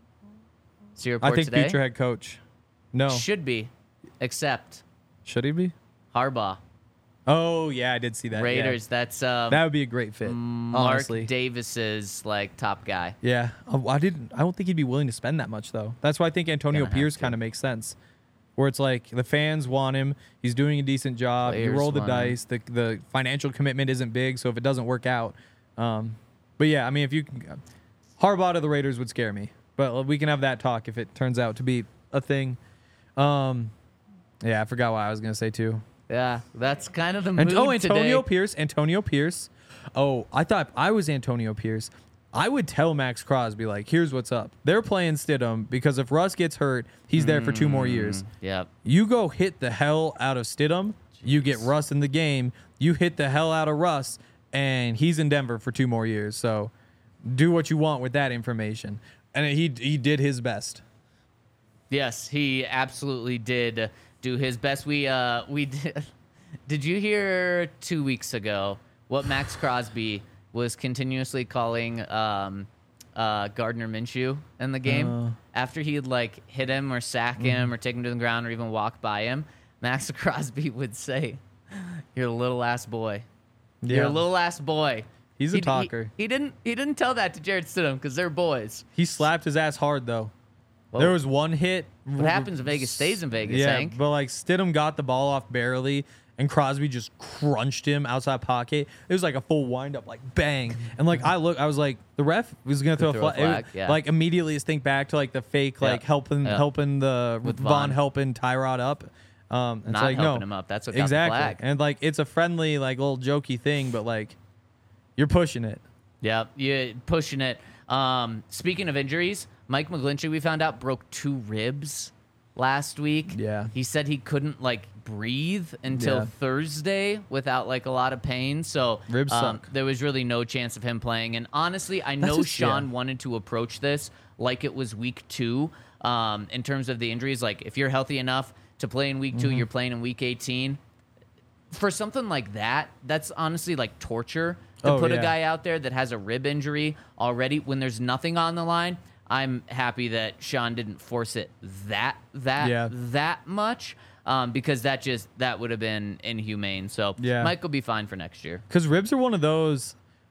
So your I report think today future head coach. No, should be, except should he be? Harbaugh. Oh yeah, I did see that. yeah. Raiders. That's um, That would be a great fit. Mark honestly. Davis's like top guy. Yeah, I I didn't. I don't think he'd be willing to spend that much though. That's why I think Antonio Gonna have Pierce to. kind of makes sense. Where it's like the fans want him. He's doing a decent job. Players you roll the want him. dice. The the financial commitment isn't big, so if it doesn't work out, um, but yeah, I mean, if you can, Harbaugh to the Raiders would scare me. But we can have that talk if it turns out to be a thing. Um, yeah, I forgot what I was gonna say too. Yeah, that's kind of the And, mood oh, Antonio today. Pierce. Antonio Pierce. Oh, I thought I was Antonio Pierce. I would tell Max Crosby, like, here's what's up. They're playing Stidham because if Russ gets hurt, he's there for two more years. Yep. You go hit the hell out of Stidham, you get Russ in the game, you hit the hell out of Russ, and he's in Denver for two more years. So do what you want with that information. And he he did his best. Yes, he absolutely did do his best. We uh we did. Did you hear two weeks ago what Max Crosby was continuously calling um uh Gardner Minshew in the game Uh. after he'd like hit him or sack him or take him to the ground or even walk by him? Max Crosby would say, "You're a little ass boy. You're a little ass boy." He's a He- he- talker. He, didn't. He didn't tell that to Jared Stidham because they're boys. He slapped his ass hard, though. Whoa. There was one hit. What happens in Vegas stays in Vegas, Yeah, Hank. but like Stidham got the ball off barely, and Crosby just crunched him outside pocket. It was like a full wind up, like bang. And like I look, I was like, the ref was gonna throw, throw a a flag. flag, yeah. Like immediately, just think back to like the fake, Yeah. like helping, Yeah. helping the With Von, Von. helping Tyrod up. Um, it's Not like helping no, him up. That's what got the exactly. flag. And like it's a friendly, like little jokey thing, but like you're pushing it. Yeah, you pushing it. Um, speaking of injuries, Mike McGlinchey, we found out, broke two ribs last week. Yeah. He said he couldn't like breathe until Yeah. Thursday without like a lot of pain. So Ribs um, suck. there was really no chance of him playing. And honestly, I That's know just- Sean yeah. wanted to approach this like it was week two. Um, in terms of the injuries, like if you're healthy enough to play in week two, Mm-hmm. you're playing in week eighteen. For something like that, that's honestly like torture to Oh, put a yeah. guy out there that has a rib injury already when there's nothing on the line. I'm happy that Sean didn't force it that that Yeah. that much um, because that just that would have been inhumane. So Yeah. Mike will be fine for next year. Because ribs are one of those,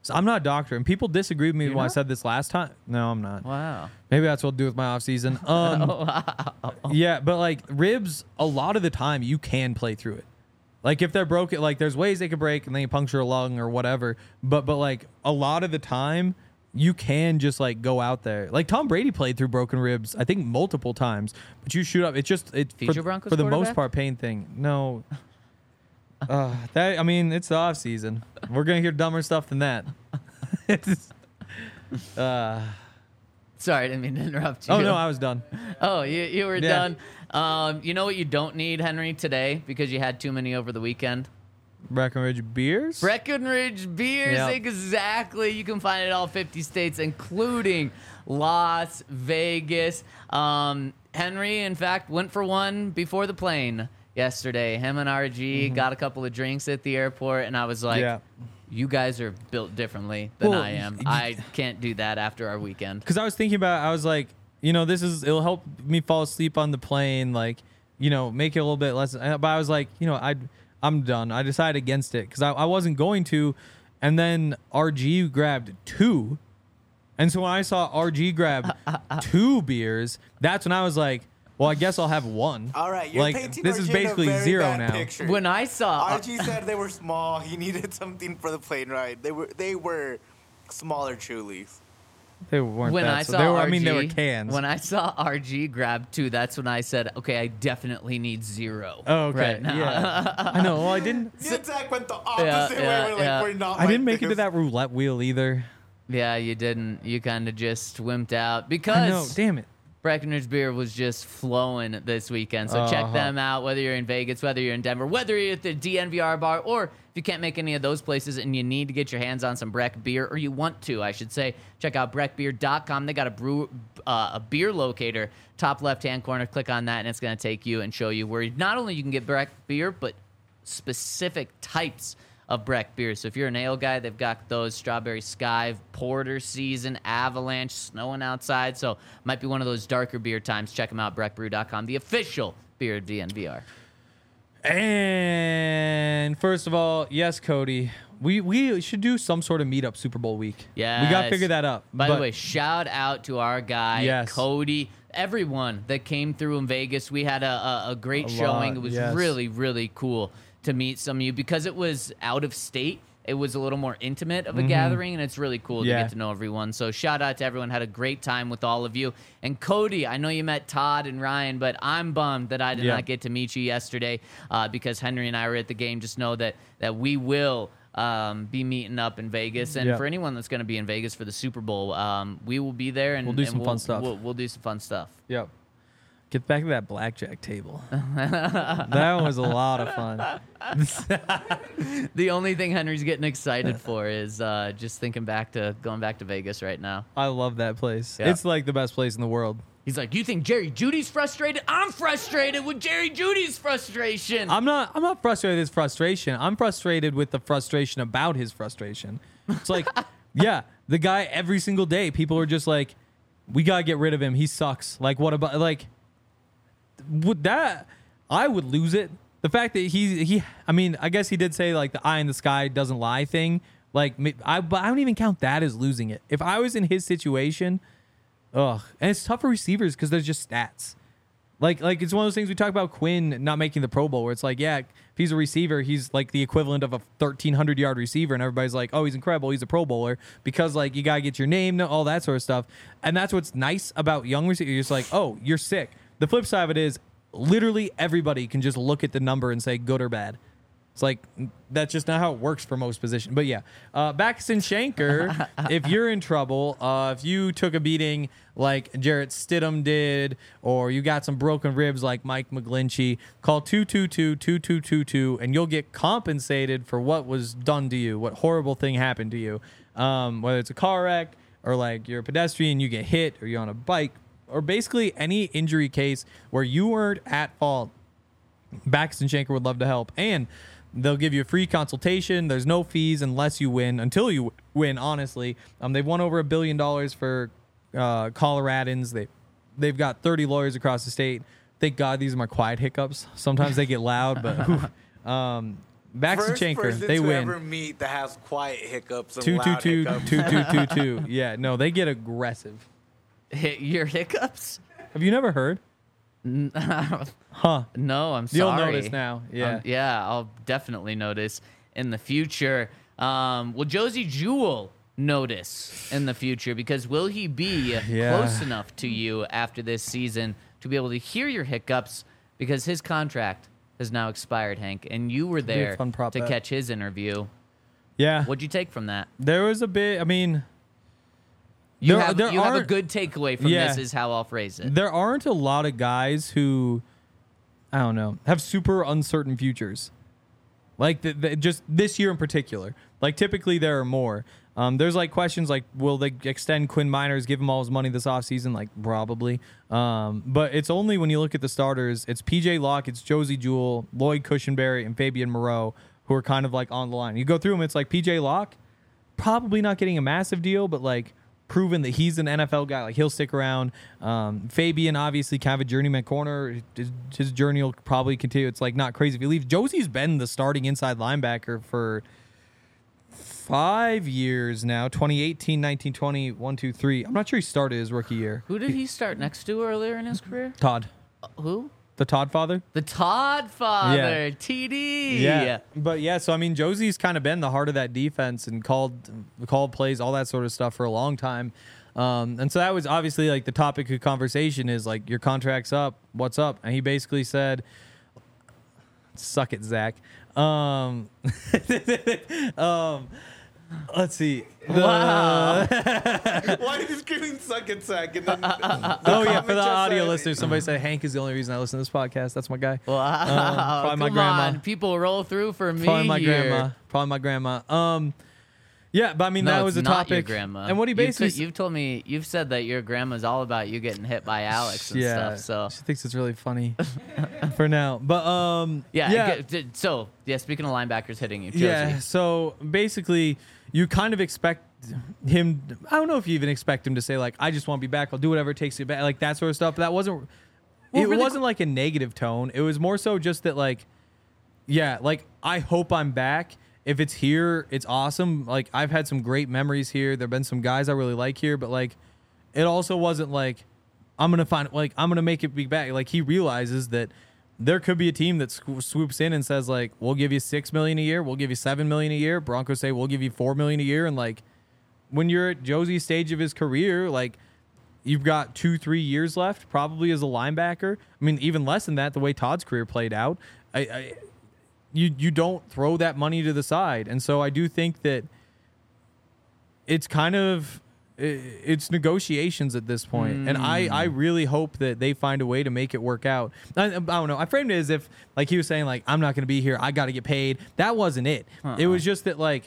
So I'm not a doctor, and people disagree with me You're when I not? said this last time. No, I'm not. Wow. Maybe that's what I'll do with my off season. Um, wow. yeah, but like ribs, a lot of the time you can play through it. Like if they're broken, like there's ways they could break and then you puncture a lung or whatever. But but like a lot of the time you can just like go out there. Like Tom Brady played through broken ribs, I think multiple times. But you shoot up, it's just it Future for, Broncos for the most quarterback? part pain thing. No. Uh, that I mean, it's the off season. We're gonna hear dumber stuff than that. It's, uh, Sorry, I didn't mean to interrupt you. oh no, I was done. Oh, you, you were Yeah. done. Um, you know what you don't need, Henry, today because you had too many over the weekend? Breckenridge beers. Breckenridge beers, Yep. exactly. You can find it in all fifty states, including Las Vegas. Um, Henry, in fact, went for one before the plane yesterday. Him and R G got a couple of drinks at the airport, and I was like, Yeah. you guys are built differently than Well, I am. y- I can't do that after our weekend. Because I was thinking about, I was like, you know, this is it'll help me fall asleep on the plane, like, you know, make it a little bit less. But I was like, you know, I I'm done. I decided against it because I, I wasn't going to, and then R G grabbed two, and so when I saw R G grab two beers, that's when I was like, well, I guess I'll have one. All right, you're like painting this R G is in a basically very zero bad now. picture. When I saw R G said they were small. He needed something for the plane ride. They were they were smaller Trulies. They weren't when that, I so saw they were, R G, I mean, they were cans. When I saw R G grab two, that's when I said, "Okay, I definitely need zero." oh, okay, right now. yeah. I know. Well, I didn't. Me and Zach went the opposite Yeah, way. yeah, We're like, yeah. we're not I didn't like make it to this. that roulette wheel either. Yeah, you didn't. You kind of just wimped out because I know. Damn it. Breckenridge beer was just flowing this weekend. So check Uh-huh. them out, whether you're in Vegas, whether you're in Denver, whether you're at the D N V R bar, or if you can't make any of those places and you need to get your hands on some Breck beer, or you want to, I should say, check out breck beer dot com. They got a brew, uh, a beer locator, top left-hand corner. Click on that, and it's going to take you and show you where not only you can get Breck beer, but specific types of Breck beer. So if you're an ale guy, they've got those Strawberry Sky, Porter Season, Avalanche, snowing outside. So might be one of those darker beer times. Check them out, breck brew dot com, the official beer of D N V R. And first of all, yes, Cody, we we should do some sort of meetup Super Bowl week. Yeah, we got to figure that out. By But the way, shout out to our guy, Yes. Cody, everyone that came through in Vegas. We had a, a, a great A showing. lot, It was yes. really, really cool to meet some of you because it was out of state. It was a little more intimate of a gathering, and it's really cool to Mm-hmm. Yeah. get to know everyone. So shout out to everyone. Had a great time with all of you. And Cody, I know you met Todd and Ryan, but I'm bummed that I did Yeah. not get to meet you yesterday uh, because Henry and I were at the game. Just know that that we will um, be meeting up in Vegas. And Yeah. for anyone that's going to be in Vegas for the Super Bowl, um, we will be there, and We'll do and some we'll, fun stuff. We'll, we'll do some fun stuff. Yep. Get back to that blackjack table. That was a lot of fun. The only thing Henry's getting excited for is uh, just thinking back to going back to Vegas right now. I love that place. Yeah. It's like the best place in the world. He's like, "You think Jerry Judy's frustrated? I'm frustrated with Jerry Judy's frustration." I'm not I'm not frustrated with his frustration. I'm frustrated with the frustration about his frustration. It's like, yeah, the guy every single day, people are just like, we gotta get rid of him. He sucks. Like, what about like would that I would lose it. The fact that he he I mean, I guess he did say like the eye in the sky doesn't lie thing. Like I but I don't even count that as losing it. If I was in his situation, ugh. And it's tough for receivers because there's just stats. Like, like it's one of those things we talk about Quinn not making the Pro Bowl, where it's like, yeah, if he's a receiver, he's like the equivalent of a thirteen hundred yard receiver, and everybody's like, oh, he's incredible, he's a Pro Bowler, because like you gotta get your name, all that sort of stuff. And that's what's nice about young receivers. You're just like, oh, you're sick. The flip side of it is, literally everybody can just look at the number and say good or bad. It's like, that's just not how it works for most positions. But yeah, uh, Baxton Shanker, if you're in trouble, uh, if you took a beating like Jarrett Stidham did, or you got some broken ribs like Mike McGlinchey, call two two two, two two two two and you'll get compensated for what was done to you, what horrible thing happened to you. Um, whether it's a car wreck, or like you're a pedestrian, you get hit, or you're on a bike, or basically any injury case where you weren't at fault. Baxton Shanker would love to help. And they'll give you a free consultation. There's no fees unless you win, until you win, honestly. Um, they've won over a billion dollars for uh, Coloradans. They, they've got thirty lawyers across the state. Thank God these are my quiet hiccups. Sometimes they get loud, but oof. um, Backs First and Chanker, person they to win. ever meet that has quiet hiccups and Two, two, loud two, hiccups. two, two, two, two. Yeah, no, they get aggressive. Hit your hiccups? Have you never heard? Huh? No, I'm You'll sorry. notice now. Yeah. Um, yeah, I'll definitely notice in the future. Um, will Josie Jewell notice in the future? Because will he be Yeah. close enough to you after this season to be able to hear your hiccups? Because his contract has now expired, Hank, and you were be a there fun prop to bet. catch his interview. Yeah. What'd you take from that? There was a bit. I mean, You There- have there you have a aren't- good takeaway from Yeah. this, is how I'll phrase it. there aren't a lot of guys who, I don't know, have super uncertain futures. Like the, the, just this year in particular. Like typically there are more. Um, there's like questions like, will they extend Quinn Miners, give him all his money this offseason? Like probably. Um, but it's only when you look at the starters, it's P J Locke, it's Josie Jewell, Lloyd Cushenberry, and Fabian Moreau who are kind of like on the line. You go through them, it's like P J Locke, probably not getting a massive deal, but like proven that he's an N F L guy. Like he'll stick around. Um, Fabian, obviously kind of a journeyman corner. His, his journey will probably continue. It's like not crazy if he leaves. Josie's been the starting inside linebacker for five years now. twenty eighteen, nineteen, twenty, one, two, three. I'm not sure he started his rookie year. Who did he start next to earlier in his career? Todd. Uh, who? The Todd father? The Todd father, Yeah. T D. Yeah. But yeah, so I mean, Josie's kind of been the heart of that defense and called called plays, all that sort of stuff for a long time. Um, and so that was obviously like the topic of conversation is like, your contract's up. What's up? And he basically said, suck it, Zach. Um, um, let's see. The- Wow. Why are you screaming suck it sack? And then oh yeah, for the just audio said- listeners, somebody said Hank is the only reason I listen to this podcast. That's my guy. Wow. probably Come my grandma. on. People roll through for me Probably my here. grandma. Probably my grandma. Um, yeah, but I mean No, that it's was a not topic. your grandma. And what he You've basically t- you've told me, you've said that your grandma's all about you getting hit by Alex and yeah, stuff. So she thinks it's really funny for now. But um, yeah. yeah, g- d- So yeah. Speaking of linebackers hitting you, Josie. yeah. So basically, you kind of expect him. I don't know if you even expect him to say like, "I just want to be back. I'll do whatever it takes to be back," like that sort of stuff. But that wasn't. Well, it really wasn't like a negative tone. It was more so just that like, yeah, like I hope I'm back. If it's here, it's awesome. Like I've had some great memories here. There've been some guys I really like here, but like, it also wasn't like I'm gonna find like I'm gonna make it be back. Like he realizes that there could be a team that sw- swoops in and says like, we'll give you six million a year, we'll give you seven million a year. Broncos say we'll give you four million a year, and like when you're at Josie's stage of his career, like you've got two, three years left, probably as a linebacker. I mean, even less than that, the way Todd's career played out. I, I you you don't throw that money to the side. And so I do think that it's kind of it's negotiations at this point. Mm. And I, I really hope that they find a way to make it work out. I, I don't know. I framed it as if like he was saying like, I'm not going to be here. I got to get paid. That wasn't it. Uh-uh. It was just that like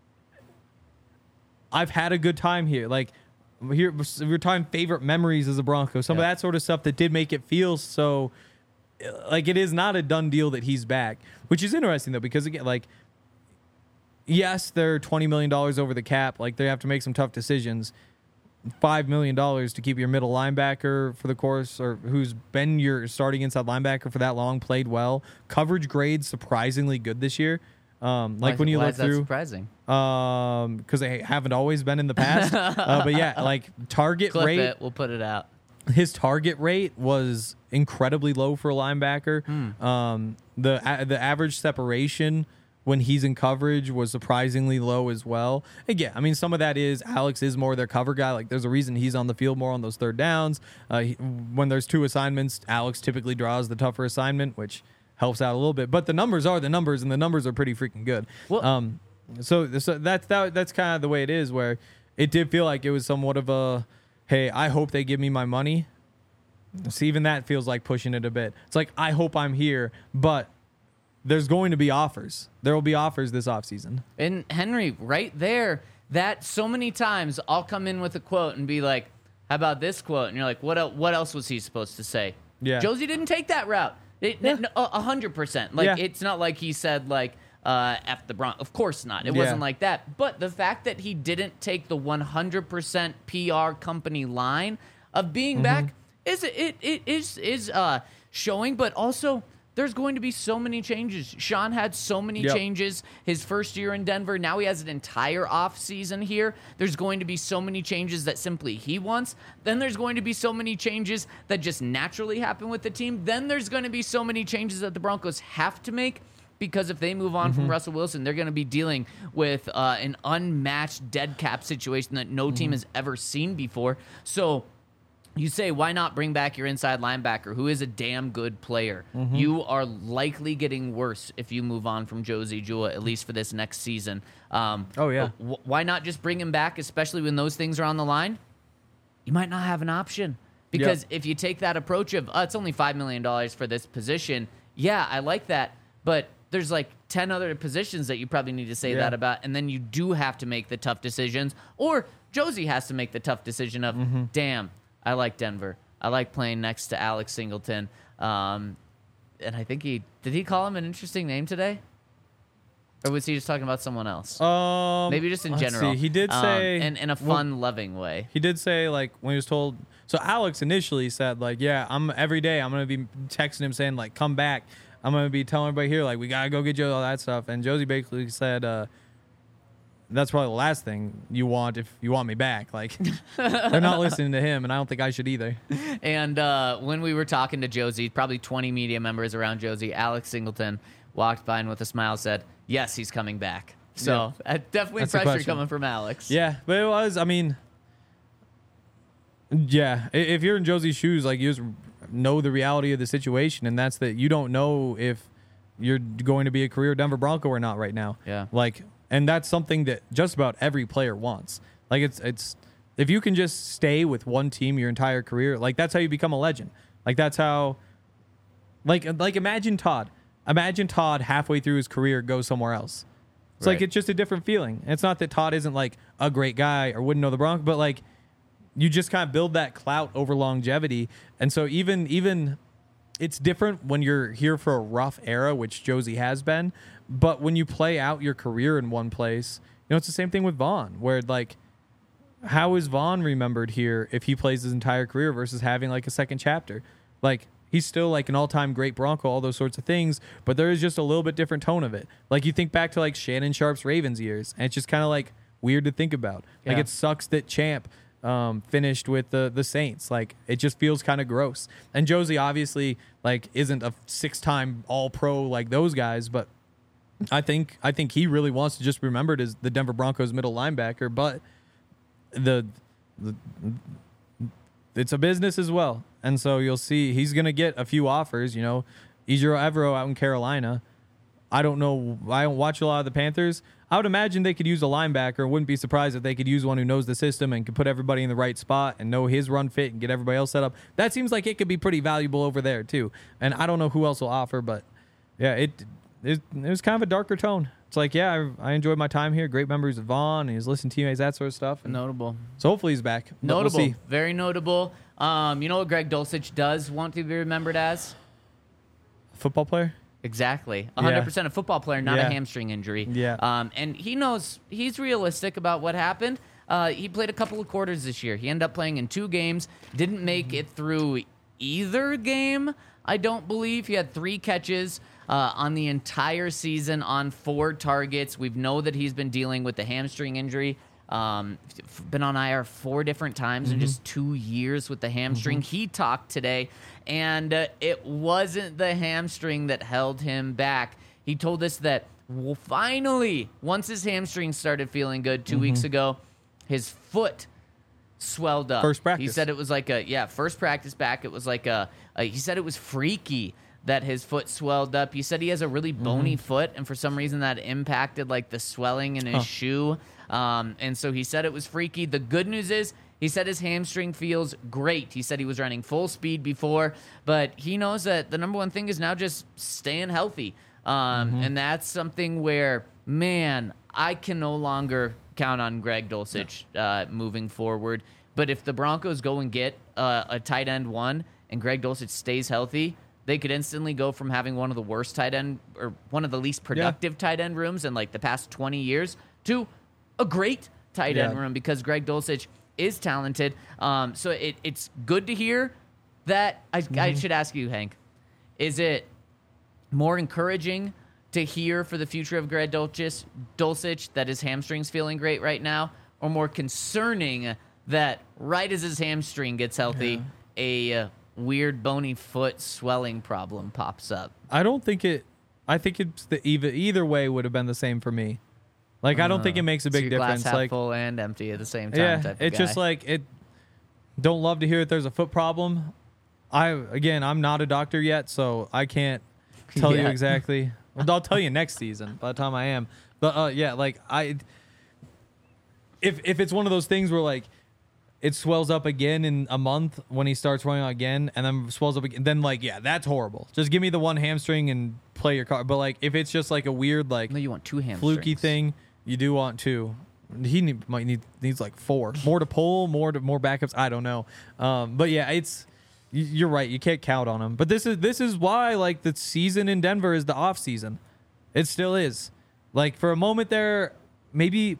I've had a good time here. Like here we're talking favorite memories as a Bronco. Some yeah. of that sort of stuff that did make it feel so like it is not a done deal that he's back, which is interesting though, because again, like, yes, they're twenty million dollars over the cap. Like they have to make some tough decisions. five million dollars to keep your middle linebacker for the course, or who's been your starting inside linebacker for that long, played well. Coverage grades surprisingly good this year. Um, like why, when you why look is that through, surprising? Um, because they haven't always been in the past. uh, but yeah, like target Clip rate. it, we'll put it out. His target rate was incredibly low for a linebacker. Hmm. Um, the a, the average separation when he's in coverage was surprisingly low as well. Again, I mean, some of that is Alex is more their cover guy. Like, there's a reason he's on the field more on those third downs. Uh, he, when there's two assignments, Alex typically draws the tougher assignment, which helps out a little bit. But the numbers are the numbers, and the numbers are pretty freaking good. Well, um, so so that's that, that's kind of the way it is, where it did feel like it was somewhat of a, hey, I hope they give me my money. So even that feels like pushing it a bit. It's like, I hope I'm here, but there's going to be offers. There will be offers this offseason. And Henry, right there, that so many times I'll come in with a quote and be like, how about this quote? And you're like, what, el- what else was he supposed to say? Yeah. Josie didn't take that route. It, yeah. n- a hundred percent. Like, yeah. It's not like he said, like, uh, F the Bronx. Of course not. It yeah. wasn't like that. But the fact that he didn't take the one hundred percent P R company line of being mm-hmm. back is it, it is is uh, showing, but also there's going to be so many changes. Sean had so many Yep. changes his first year in Denver. Now he has an entire off season here. There's going to be so many changes that simply he wants. Then there's going to be so many changes that just naturally happen with the team. Then there's going to be so many changes that the Broncos have to make, because if they move on Mm-hmm. from Russell Wilson, they're going to be dealing with uh, an unmatched dead cap situation that no team Mm-hmm. has ever seen before. So you say, why not bring back your inside linebacker, who is a damn good player? Mm-hmm. You are likely getting worse if you move on from Josie Jewell, at least for this next season. Um, Oh, yeah. w- why not just bring him back, especially when those things are on the line? You might not have an option. Because Yep. if you take that approach of, oh, it's only five million dollars for this position, yeah, I like that. But there's like ten other positions that you probably need to say Yeah. that about. And then you do have to make the tough decisions. Or Josie has to make the tough decision of, Mm-hmm. damn, I like Denver. I like playing next to Alex Singleton. Um, and I think he, did he call him an interesting name today? Or was he just talking about someone else? Um, Maybe just in let's general. see. He did Um, say in, in a well, fun, loving way. He did say, like, when he was told. So Alex initially said, like, yeah, I'm every day I'm gonna be texting him saying, like, come back. I'm gonna be telling everybody here, like, we gotta go get Joe, all that stuff. And Josie basically said, uh, that's probably the last thing you want if you want me back. Like, they're not listening to him, and I don't think I should either. And uh, when we were talking to Josie, probably twenty media members around Josie, Alex Singleton walked by and with a smile said, yes, he's coming back. So uh, definitely That's the pressure question. coming from Alex. Yeah, but it was. I mean, yeah. i- If you're in Josie's shoes, like, you just know the reality of the situation, and that's that you don't know if you're going to be a career Denver Bronco or not right now. Yeah. Like, and that's something that just about every player wants. Like, it's it's if you can just stay with one team your entire career, like, that's how you become a legend. Like, that's how. Like like imagine Todd. Imagine Todd halfway through his career goes somewhere else. It's like Right. it's just a different feeling. And it's not that Todd isn't like a great guy or wouldn't know the Broncos, but like you just kind of build that clout over longevity. And so even even it's different when you're here for a rough era, which Josie has been. But when you play out your career in one place, you know, it's the same thing with Vaughn, where like how is Vaughn remembered here if he plays his entire career versus having like a second chapter? Like, he's still like an all-time great Bronco, all those sorts of things, but there is just a little bit different tone of it. Like, you think back to like Shannon Sharp's Ravens years, and it's just kind of like weird to think about. Like, Yeah. it sucks that Champ um, finished with the the Saints. Like, it just feels kind of gross. And Josie obviously like isn't a six-time All-Pro like those guys, but I think I think he really wants to just be remembered as the Denver Broncos middle linebacker. But the, the it's a business as well. And so you'll see he's going to get a few offers, you know. Ejiro Evero out in Carolina. I don't know. I don't watch a lot of the Panthers. I would imagine they could use a linebacker. Wouldn't be surprised if they could use one who knows the system and can put everybody in the right spot and know his run fit and get everybody else set up. That seems like it could be pretty valuable over there too. And I don't know who else will offer, but yeah, it it, it was kind of a darker tone. It's like, yeah, I, I enjoyed my time here. Great members of Vaughn and his listening teammates, that sort of stuff. And Notable. so hopefully he's back. But we'll Notable. see. Very notable. Um, you know what Greg Dulcich does want to be remembered as? Football player. Exactly. one hundred percent a football player, not Yeah. a hamstring injury. Yeah. Um, and he knows, he's realistic about what happened. Uh, he played a couple of quarters this year. He ended up playing in two games, didn't make it through either game, I don't believe. He had three catches uh, on the entire season on four targets. We know that he's been dealing with the hamstring injury. Um, f- been on I R four different times in just two years with the hamstring. He talked today, and uh, it wasn't the hamstring that held him back. He told us that well, finally, once his hamstring started feeling good 2 weeks ago, his foot swelled up. First practice. He said it was like a yeah, first practice back. It was like a, a he said it was freaky that his foot swelled up. He said he has a really bony foot, and for some reason that impacted like the swelling in his Huh. shoe. Um, and so he said it was freaky. The good news is he said his hamstring feels great. He said he was running full speed before, but he knows that the number one thing is now just staying healthy. Um, And that's something where, man, I can no longer count on Greg Dulcich uh, moving forward. But if the Broncos go and get uh, a tight end one and Greg Dulcich stays healthy, they could instantly go from having one of the worst tight end or one of the least productive tight end rooms in like the past twenty years to a great tight end Yeah. room because Greg Dulcich is talented. Um, so it, it's good to hear that. I, I should ask you, Hank, is it more encouraging to hear for the future of Greg Dulcich, Dulcich that his hamstring's feeling great right now, or more concerning that right as his hamstring gets healthy, yeah. a uh, weird bony foot swelling problem pops up? I don't think it. I think it's the either either way would have been the same for me. Like, I don't think it makes a So big your glass difference. half Like, full and empty at the same time. yeah, type of it's guy. just like it. Don't love to hear that there's a foot problem. I again, I'm not a doctor yet, so I can't tell you Yeah. exactly. Well, I'll tell you next season by the time I am. But uh, yeah, like I, if if it's one of those things where like it swells up again in a month when he starts running out again, and then swells up again, then like yeah, that's horrible. Just give me the one hamstring and play your card. But like if it's just like a weird like No, you want two hamstrings. fluky thing, you do want two. He need, might need needs like four more to pull, more to more backups. I don't know, um, but yeah, it's y- you're right. You can't count on him. But this is this is why like the season in Denver is the off season. It still is. Like for a moment there, maybe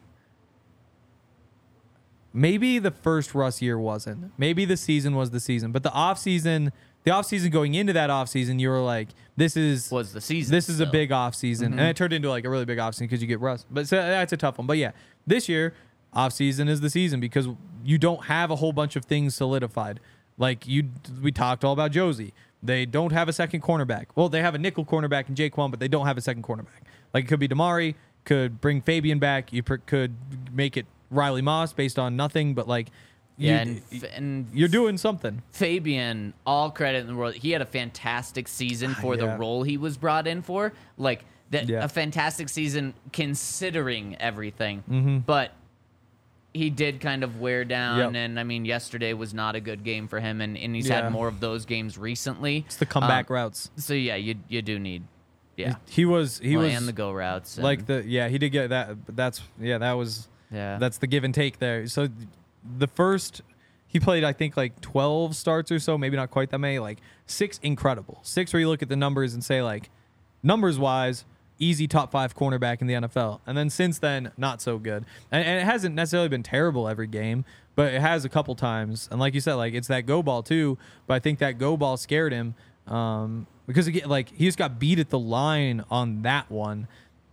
maybe the first Russ year wasn't. Maybe the season was the season, but the off season, the off season going into that off season, you were like, this is Was the season This is a still. big off season, Mm-hmm. and it turned into like a really big off season because you get Russ. But so that's a tough one. But yeah, this year off season is the season because you don't have a whole bunch of things solidified. Like you, we talked all about Josie. They don't have a second cornerback. Well, they have a nickel cornerback in Jaquan, but they don't have a second cornerback. Like it could be Damari, could bring Fabian back. You pr- could make it Riley Moss based on nothing, but like, you, Yeah, and, f- and you're doing something. Fabian, all credit in the world. He had a fantastic season for Yeah. the role he was brought in for. Like that, Yeah. a fantastic season considering everything. Mm-hmm. But he did kind of wear down, Yep. and I mean, yesterday was not a good game for him, and, and he's Yeah. had more of those games recently. It's the comeback Um, routes. So yeah, you you do need, yeah, He was he Well, was and the go routes, and, like the yeah he did get that. But that's yeah that was yeah, that's the give and take there. So the first he played I think like twelve starts or so, maybe not quite that many. Like six incredible, six where you look at the numbers and say like numbers wise. Easy top five cornerback in the N F L. And then since then, not so good. And, and it hasn't necessarily been terrible every game, but it has a couple times. And like you said, like it's that go ball too. But I think that go ball scared him um, because again, like he just got beat at the line on that one,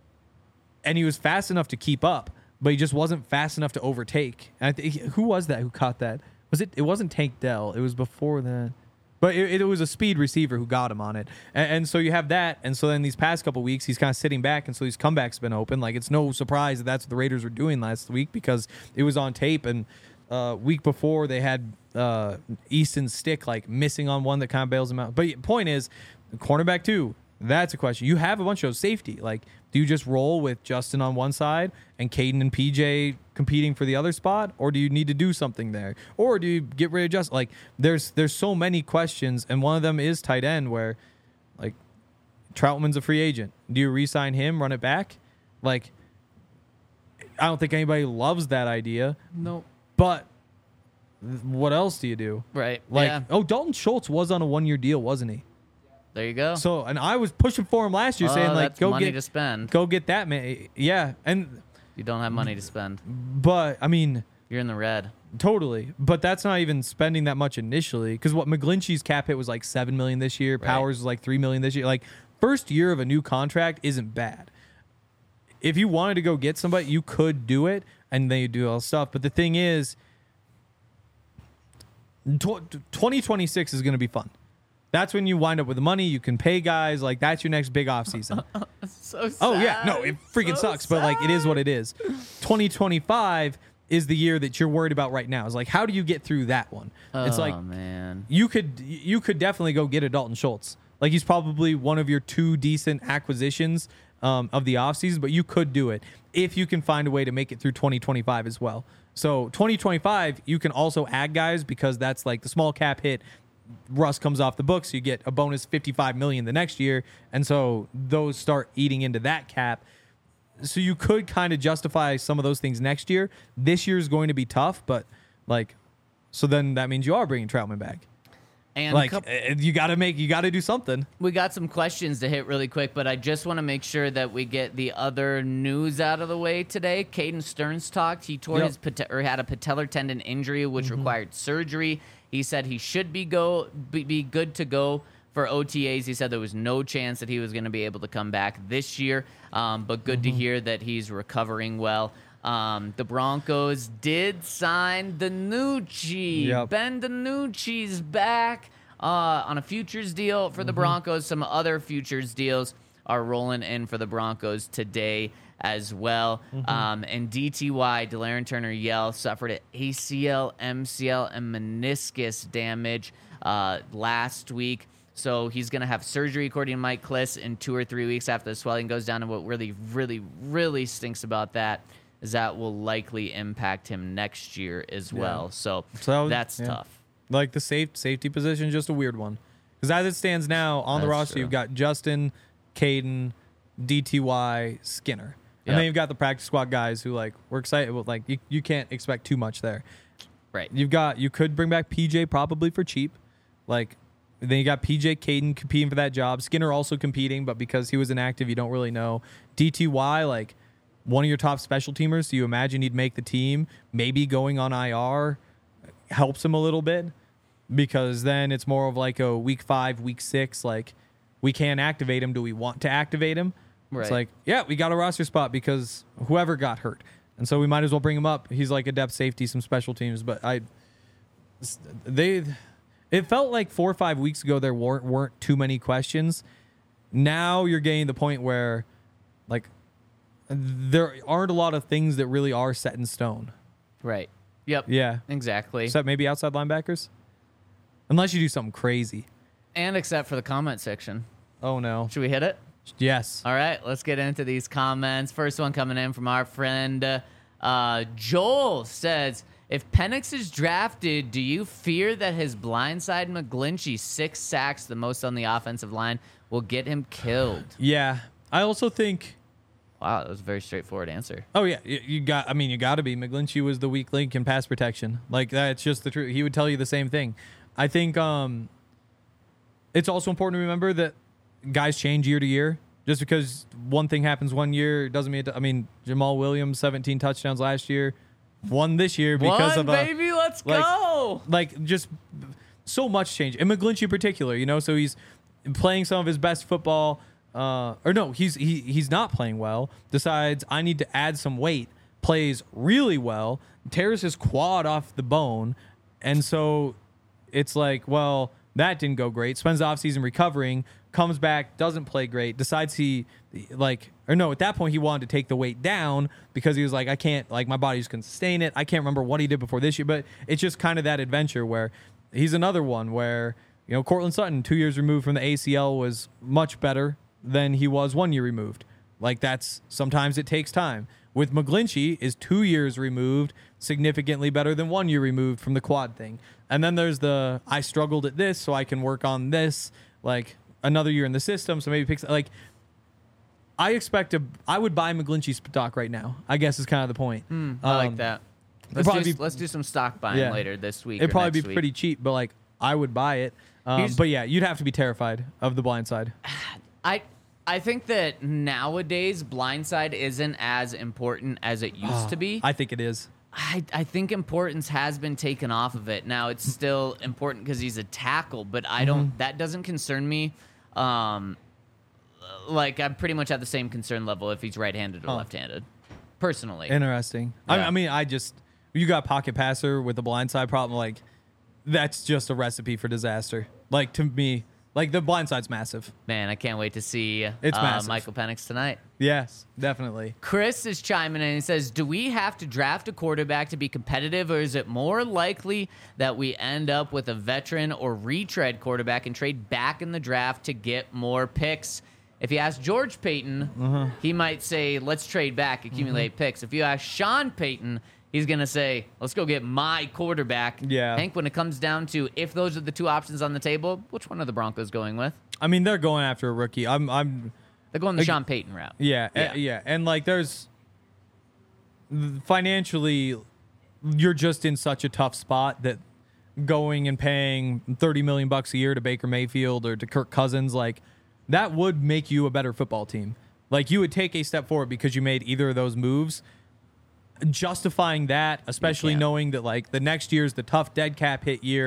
and he was fast enough to keep up, but he just wasn't fast enough to overtake. And I think who was that who caught that? Was it? It wasn't Tank Dell. It was before that. But it, it was a speed receiver who got him on it. And, and so you have that. And so then these past couple weeks, he's kind of sitting back. And so these comebacks have been open. Like, it's no surprise that that's what the Raiders were doing last week because it was on tape. And uh, week before, they had uh, Easton Stick, like, missing on one that kind of bails him out. But point is, cornerback two, that's a question. You have a bunch of safety. Like, do you just roll with Justin on one side and Caden and P J competing for the other spot, or do you need to do something there, or do you get rid of Justin? Like, there's there's so many questions, and one of them is tight end, where like Troutman's a free agent. Do you re-sign him, run it back? Like, I don't think anybody loves that idea. Nope. But what else do you do? Right. Like, yeah. oh, Dalton Schultz was on a one-year deal, wasn't he? There you go. So, and I was pushing for him last year, Oh, saying like, that's go money get to spend. go get that man. Yeah, and You don't have money to spend. but I mean, You're in the red. totally. But that's not even spending that much initially, because what McGlinchey's cap hit was like seven million this year. Right. Powers was like three million this year. Like, first year of a new contract isn't bad. If you wanted to go get somebody, you could do it, and then you do all the stuff. But the thing is, twenty twenty-six is going to be fun. That's when you wind up with the money. You can pay guys. Like, that's your next big offseason. So sad. Oh, yeah. No, it freaking So sucks. But, like, it is what it is. twenty twenty-five is the year that you're worried about right now. It's like, how do you get through that one? It's Oh, like, man. you could you could definitely go get a Dalton Schultz. Like, he's probably one of your two decent acquisitions um, of the offseason, but you could do it if you can find a way to make it through twenty twenty-five as well. So twenty twenty-five, you can also add guys because that's like the small cap hit. Russ comes off the books, you get a bonus fifty-five million dollars the next year, and so those start eating into that cap. So you could kind of justify some of those things next year. This year is going to be tough, but like, so then that means you are bringing Troutman back. And Like, coup- uh, you got to make, you got to do something. we got some questions to hit really quick, but I just want to make sure that we get the other news out of the way today. Caden Stearns talked. He tore Yep. his pate- or had a patellar tendon injury, which Mm-hmm. required surgery. He said he should be go be, be good to go for O T As. He said there was no chance that he was going to be able to come back this year, um, but good mm-hmm. to hear that he's recovering well. Um, the Broncos did sign DiNucci. Yep. Ben DiNucci's back uh, on a futures deal for the mm-hmm. Broncos. Some other futures deals are rolling in for the Broncos today as well. Mm-hmm. Um, and D T Y, De'Aaron Turner-Yell, suffered an A C L, M C L, and meniscus damage uh, last week. So he's going to have surgery, according to Mike Klis, in two or three weeks after the swelling goes down. And what really, really, really stinks about that is that will likely impact him next year as well. Yeah. So, so that's yeah. tough. Like the safe safety position is just a weird one. Because as it stands now, on that's the roster, true. You've got Justin, Caden, D T Y, Skinner. And yep. then you've got the practice squad guys who, like, we're excited. Like, you, you can't expect too much there. Right. You've got, you could bring back P J probably for cheap. Like, then you got P J, Caden competing for that job. Skinner also competing, but because he was inactive, you don't really know. D T Y, like, one of your top special teamers, so you imagine he'd make the team. Maybe going on I R helps him a little bit because then it's more of like a week five, week six, like we can't activate him. Do we want to activate him? Right. It's like, yeah, we got a roster spot because whoever got hurt. And so we might as well bring him up. He's like a depth safety, some special teams. But I, they, it felt like four or five weeks ago there weren't, weren't too many questions. Now you're getting the point where like, there aren't a lot of things that really are set in stone. Right. Yep. Yeah. Exactly. Except maybe outside linebackers? Unless you do something crazy. And except for the comment section. Oh, no. Should we hit it? Yes. All right. Let's get into these comments. First one coming in from our friend uh, Joel says, if Penix is drafted, do you fear that his blindside McGlinchey, six sacks, the most on the offensive line, will get him killed? Yeah. I also think... Wow, that was a very straightforward answer. Oh, yeah. You, you got, I mean, you got to be. McGlinchey was the weak link in pass protection. Like, that's just the truth. He would tell you the same thing. I think um, it's also important to remember that guys change year to year. Just because one thing happens one year doesn't mean it, I mean, Jamal Williams, seventeen touchdowns last year, won this year because one, of a... baby, let's like, go! Like, just so much change. And McGlinchey in particular, you know, so he's playing some of his best football... Uh, or no, he's he he's not playing well. Decides I need to add some weight. Plays really well. Tears his quad off the bone, and so it's like, well, that didn't go great. Spends the offseason recovering. Comes back, doesn't play great. Decides he like or no, at that point he wanted to take the weight down because he was like, I can't like my body just can sustain it. I can't remember what he did before this year, but it's just kind of that adventure where he's another one where you know Cortland Sutton, two years removed from the A C L, was much better than he was one year removed. Like that's sometimes it takes time. With McGlinchey is two years removed, significantly better than one year removed from the quad thing. And then there's the I struggled at this, so I can work on this. Like another year in the system, so maybe picks like. I expect to. I would buy McGlinchey stock right now. I guess is kind of the point. Mm, I um, like that. Let's do, be, let's do some stock buying yeah. later this week. It'd probably be week. pretty cheap, but like I would buy it. Um, but yeah, you'd have to be terrified of the blind side. I. I think that nowadays blindside isn't as important as it used oh, to be. I think it is. I, I think importance has been taken off of it. Now it's still important because he's a tackle, but I don't. Mm-hmm. That doesn't concern me. Um, like I'm pretty much at the same concern level if he's right-handed or oh. left-handed, personally. Interesting. Yeah. I, I mean, I just you got pocket passer with the blindside problem. Like that's just a recipe for disaster. Like to me. Like, the blindside's massive. Man, I can't wait to see it's uh, Michael Penix tonight. Yes, definitely. Chris is chiming in and says, do we have to draft a quarterback to be competitive, or is it more likely that we end up with a veteran or retread quarterback and trade back in the draft to get more picks? If you ask George Payton, mm-hmm. he might say, let's trade back, accumulate mm-hmm. picks. If you ask Sean Payton, he's going to say, let's go get my quarterback. Yeah. Hank, when it comes down to if those are the two options on the table, which one are the Broncos going with? I mean, they're going after a rookie. I'm, I'm. They're going the like, Sean Payton route. Yeah, yeah. Uh, yeah. And, like, there's financially, you're just in such a tough spot that going and paying thirty million bucks a year to Baker Mayfield or to Kirk Cousins, like, that would make you a better football team. Like, you would take a step forward because you made either of those moves. Justifying that, especially knowing that like the next year's the tough dead cap hit year,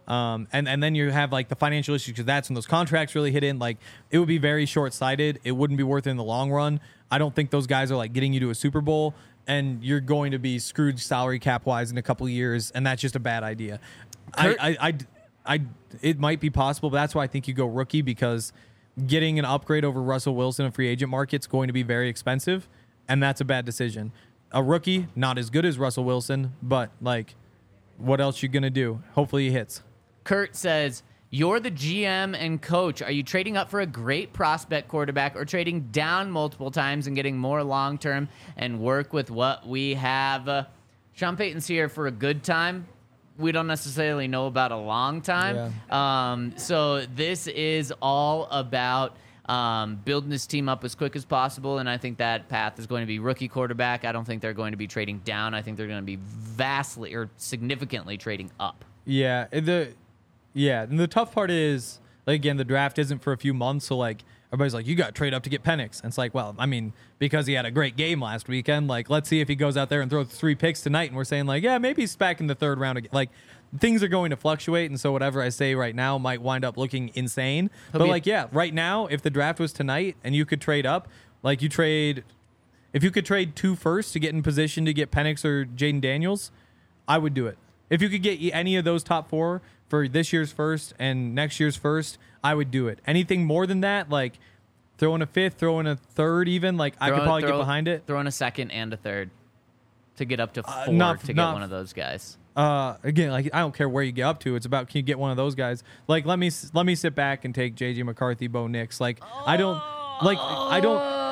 Um, and, and then you have like the financial issues because that's when those contracts really hit in. Like it would be very short sighted. It wouldn't be worth it in the long run. I don't think those guys are like getting you to a Super Bowl, and you're going to be screwed salary cap wise in a couple of years. And that's just a bad idea. I, I, I, I, it might be possible, but that's why I think you go rookie, because getting an upgrade over Russell Wilson in free agent market's going to be very expensive. And that's a bad decision. A rookie, not as good as Russell Wilson, but like, what else you going to do? Hopefully he hits. Kurt says, you're the G M and coach. Are you trading up for a great prospect quarterback or trading down multiple times and getting more long-term and work with what we have? Uh, Sean Payton's here for a good time. We don't necessarily know about a long time. Yeah. Um, so this is all about um, building this team up as quick as possible, and I think that path is going to be rookie quarterback. I don't think they're going to be trading down. I think they're going to be vastly or significantly trading up. Yeah, the... Yeah, and the tough part is, like, again, the draft isn't for a few months, so, like, everybody's like, you got to trade up to get Penix. And it's like, well, I mean, because he had a great game last weekend, like, let's see if he goes out there and throws three picks tonight, and we're saying, like, yeah, maybe he's back in the third round again. Like, things are going to fluctuate, and so whatever I say right now might wind up looking insane. He'll but, like, yeah, right now, if the draft was tonight and you could trade up, like, you trade, if you could trade two first to get in position to get Penix or Jaden Daniels, I would do it. If you could get any of those top four for this year's first and next year's first, I would do it. Anything more than that, like throw in a fifth, throw in a third even, like throw, I could probably throw, get behind it. Throw in a second and a third to get up to four uh, not, to not, get one of those guys. Uh, again, like I don't care where you get up to. It's about, can you get one of those guys? Like let me let me sit back and take J J McCarthy, Bo Nix. Like oh. I don't like I don't.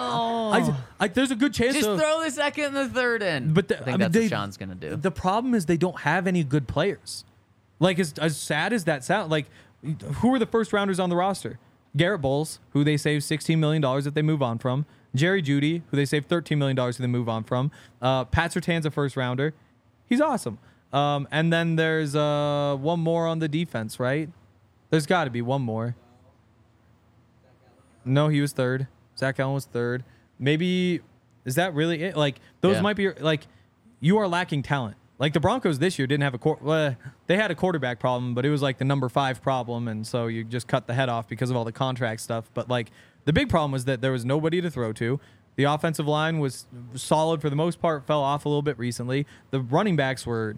I, I, there's a good chance. Just of, throw the second and the third in. But the, I think I mean, that's they, what Sean's gonna do. The problem is they don't have any good players. Like as, as sad as that sounds, like who are the first rounders on the roster? Garrett Bowles, who they save sixteen million dollars if they move on from. Jerry Jeudy, who they save thirteen million dollars if they move on from. Uh, Pat Surtain's a first rounder. He's awesome. Um, and then there's uh, one more on the defense, right? There's got to be one more. No, he was third. Zach Allen was third. Maybe, is that really it? Like, those yeah. might be, like, you are lacking talent. Like, the Broncos this year didn't have a, quar- well, they had a quarterback problem, but it was, like, the number five problem, and so you just cut the head off because of all the contract stuff. But, like, the big problem was that there was nobody to throw to. The offensive line was solid for the most part, fell off a little bit recently. The running backs were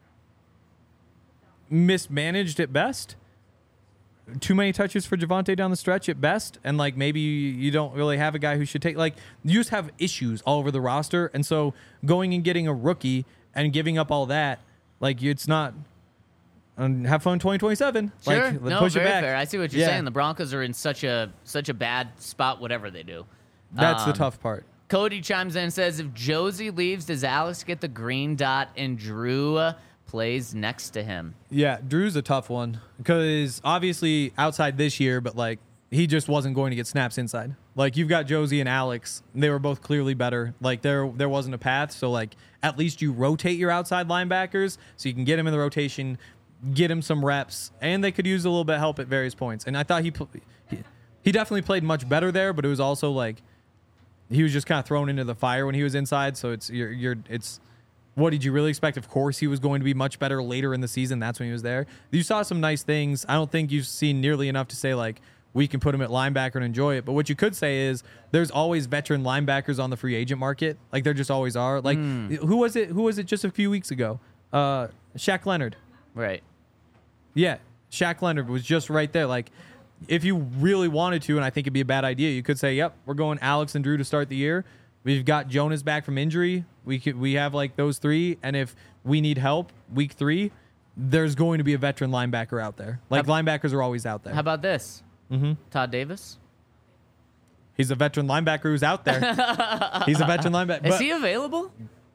mismanaged at best. Too many touches for Javonte down the stretch at best, and like maybe you don't really have a guy who should take, like you just have issues all over the roster, and so going and getting a rookie and giving up all that, like it's not. Um, have fun twenty twenty-seven. Sure, like, no, push very it back. fair. I see what you're yeah. saying. The Broncos are in such a such a bad spot, whatever they do. That's um, the tough part. Cody chimes in and says, if Josie leaves, does Alex get the green dot and Drew uh, plays next to him? Yeah, Drew's a tough one because obviously outside this year, but like he just wasn't going to get snaps inside. Like you've got Josie and Alex, they were both clearly better. Like there there wasn't a path, so like at least you rotate your outside linebackers so you can get him in the rotation, get him some reps, and they could use a little bit of help at various points. And I thought he he, he definitely played much better there, but it was also like he was just kind of thrown into the fire when he was inside. So it's you're you're it's. What did you really expect? Of course, he was going to be much better later in the season. That's when he was there. You saw some nice things. I don't think you've seen nearly enough to say, like, we can put him at linebacker and enjoy it. But what you could say is there's always veteran linebackers on the free agent market. Like, there just always are. Like, mm. who was it? Who was it just a few weeks ago? Uh, Shaq Leonard. Right. Yeah, Shaq Leonard was just right there. Like, if you really wanted to, and I think it'd be a bad idea, you could say, yep, we're going Alex and Drew to start the year. We've got Jonas back from injury. We could we have like those three, and if we need help week three, there's going to be a veteran linebacker out there. Like how, linebackers are always out there. How about this? Mm-hmm. Todd Davis. He's a veteran linebacker who's out there. He's a veteran linebacker. Is he available?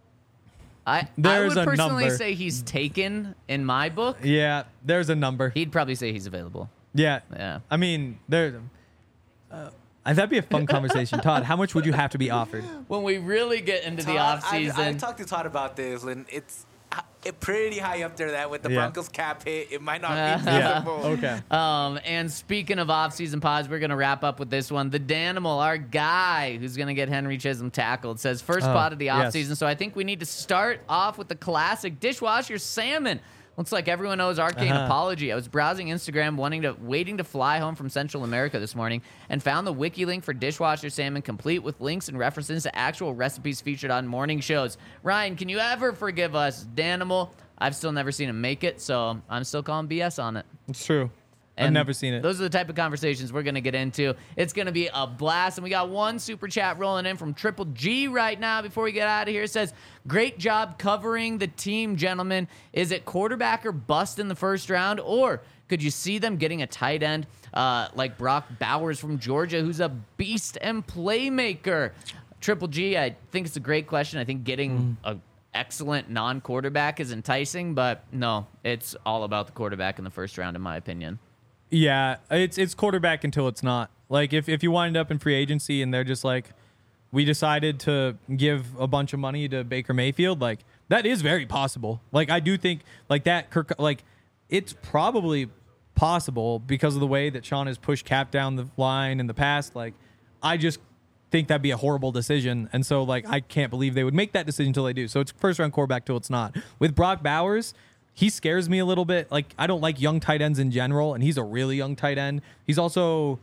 I there's I would a personally number. say he's taken in my book. Yeah, there's a number. He'd probably say he's available. Yeah, yeah. I mean, there. Uh, That'd be a fun conversation. Todd, how much would you have to be offered? When we really get into Todd, the offseason. I, I talked to Todd about this, and it's it pretty high up there that with the yeah. Broncos cap hit, it might not uh, be feasible. Yeah. Okay. Um, and speaking of offseason pods, we're going to wrap up with this one. The Danimal, our guy who's going to get Henry Chisholm tackled, says first oh, pod of the offseason. yes. So I think we need to start off with the classic dishwasher salmon. Looks like everyone owes Arcane Uh-huh. apology. I was browsing Instagram, wanting to, waiting to fly home from Central America this morning, and found the wiki link for dishwasher salmon, complete with links and references to actual recipes featured on morning shows. Ryan, can you ever forgive us, Danimal? I've still never seen him make it, so I'm still calling B S on it. It's true. I've And never seen it. Those are the type of conversations we're going to get into. It's going to be a blast. And we got one super chat rolling in from Triple G right now before we get out of here. It says, great job covering the team, gentlemen. Is it quarterback or bust in the first round? Or could you see them getting a tight end uh, like Brock Bowers from Georgia, who's a beast and playmaker? Triple G, I think it's a great question. I think getting Mm. a excellent non-quarterback is enticing, but no, it's all about the quarterback in the first round, in my opinion. Yeah, it's it's quarterback until it's not. Like if, if you wind up in free agency and they're just like, we decided to give a bunch of money to Baker Mayfield, like that is very possible. Like I do think like that Kirk, like it's probably possible because of the way that Sean has pushed Cap down the line in the past. Like I just think that'd be a horrible decision. And so like I can't believe they would make that decision until they do. So it's first round quarterback till it's not. With Brock Bowers, he scares me a little bit. Like, I don't like young tight ends in general, and he's a really young tight end. He's also,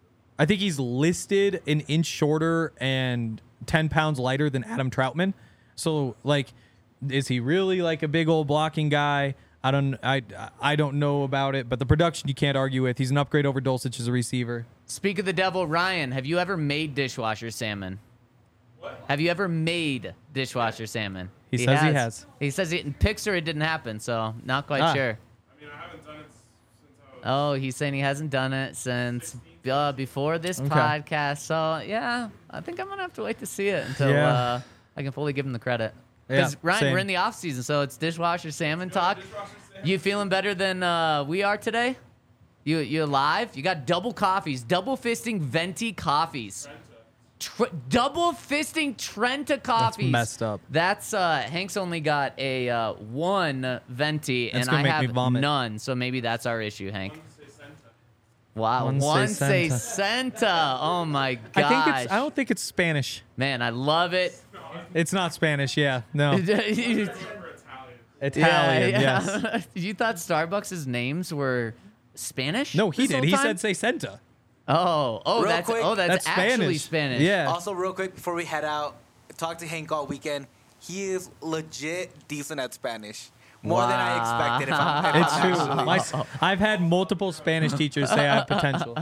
I think he's listed an inch shorter and ten pounds lighter than Adam Troutman. So, like, is he really like a big old blocking guy? I don't, I, I don't know about it, but the production you can't argue with. He's an upgrade over Dulcich as a receiver. Speak of the devil, Ryan, have you ever made dishwasher salmon? What? Have you ever made dishwasher salmon? He says he has. He says it in Pixar it didn't happen, so not quite Ah. sure. I mean, I haven't done it since I was. Oh, he's saying he hasn't done it since uh, before this Okay. podcast. So, yeah, I think I'm going to have to wait to see it until Yeah. uh, I can fully give him the credit. Because, Yeah, Ryan, same. we're in the off season, so it's dishwasher salmon talk. Dishwasher salmon. You feeling better than uh, we are today? You you alive? You got double coffees, double fisting venti coffees. Tr- double fisting Trenta coffees. messed up. That's uh, Hank's only got a uh, one venti, That's and gonna I make me have vomit. none. So maybe that's our issue, Hank. Wow, One one, say say Santa. Santa. Oh my gosh, I think it's, I don't think it's Spanish. man, I love it. It's not Spanish, yeah. No. yeah, Italian, yes. yeah. You thought Starbucks' names were Spanish? No, he this did. whole He time? said say Santa. Oh, oh, Real that's quick, oh, that's, That's actually Spanish. Spanish. Yeah. Also, real quick before we head out, talk to Hank all weekend. He is legit decent at Spanish. More than I expected. If I'm, if It's I'm true. actually- My, s- I've had multiple Spanish teachers say I have potential.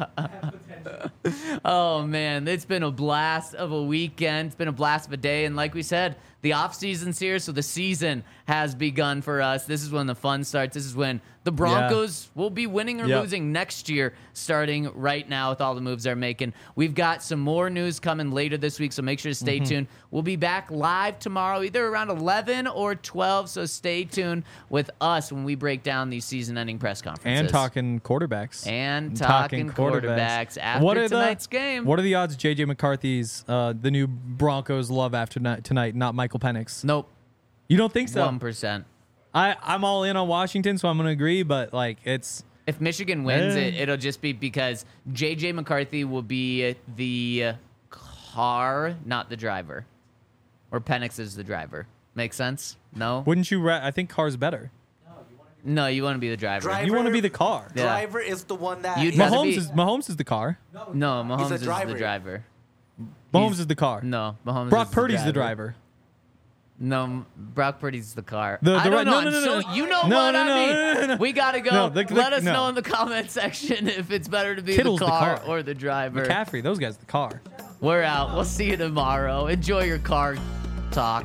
Oh man, it's been a blast of a weekend. It's been a blast of a day, and like we said, the off season's here, so the season has begun for us. This is when the fun starts. This is when the Broncos will be winning or Yep. losing next year, starting right now with all the moves they're making. We've got some more news coming later this week, so make sure to stay Mm-hmm. tuned. We'll be back live tomorrow, either around eleven or twelve, so stay tuned with us when we break down these season-ending press conferences. And talking quarterbacks. And talking quarterbacks after What are the- tonight's game. What are the odds J J McCarthy's uh, the new Broncos love after ni- tonight, not Michael Penix? Nope, You don't think so? one percent. I, I'm all in on Washington, so I'm going to agree, but like it's If Michigan wins Eh. it, it'll just be because J J McCarthy will be the car, not the driver. Or Penix is the driver. Make sense? No? wouldn't you ra- I think car's better. No, you want to be the driver. Drive- You want to be the car. Yeah. Driver is the one that You'd is- rather Mahomes be- is Mahomes is the car. No, Mahomes a is the driver. driver. Mahomes He's- is the car. No, Mahomes Brock is Purdy's the the driver. driver. No, M- Brock Purdy's the car. The- I the don't right- know. no, I'm no, no, so- no. You know No, what no, I no, mean. no, no, no. We got to go. No, the- the- Let us no. know in the comment section if it's better to be Kittle's the the car, car. or the driver. McCaffrey, those guys the car. We're out. We'll see you tomorrow. Enjoy your car talk.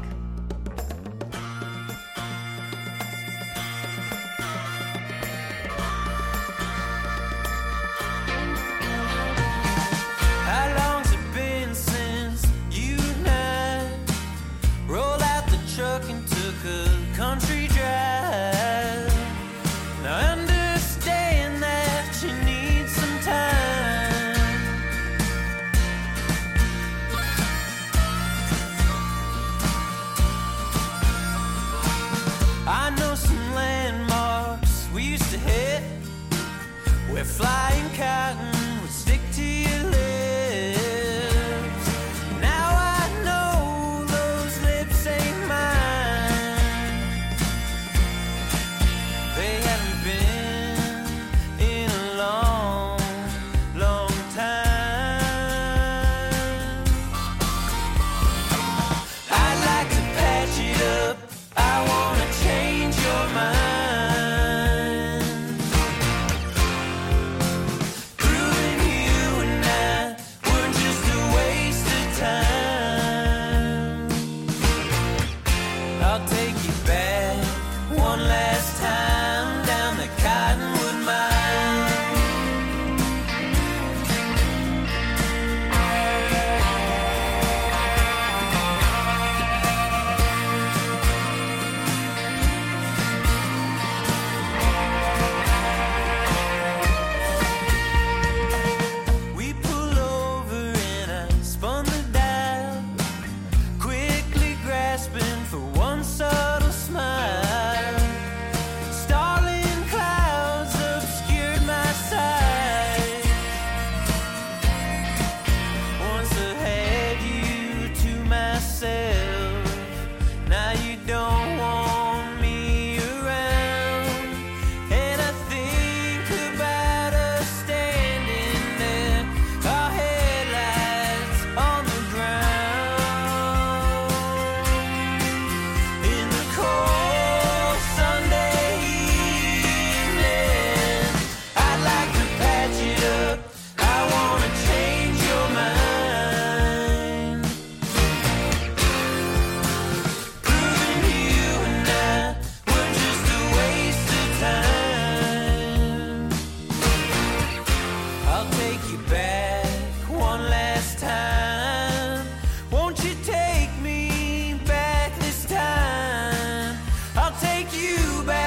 How long's it been since you and I rolled out the truck and took a country drive? Now I understand that you need some time. I know some landmarks we used to hit where flying cotton would stick to your lips. Now I know those lips ain't mine. you back.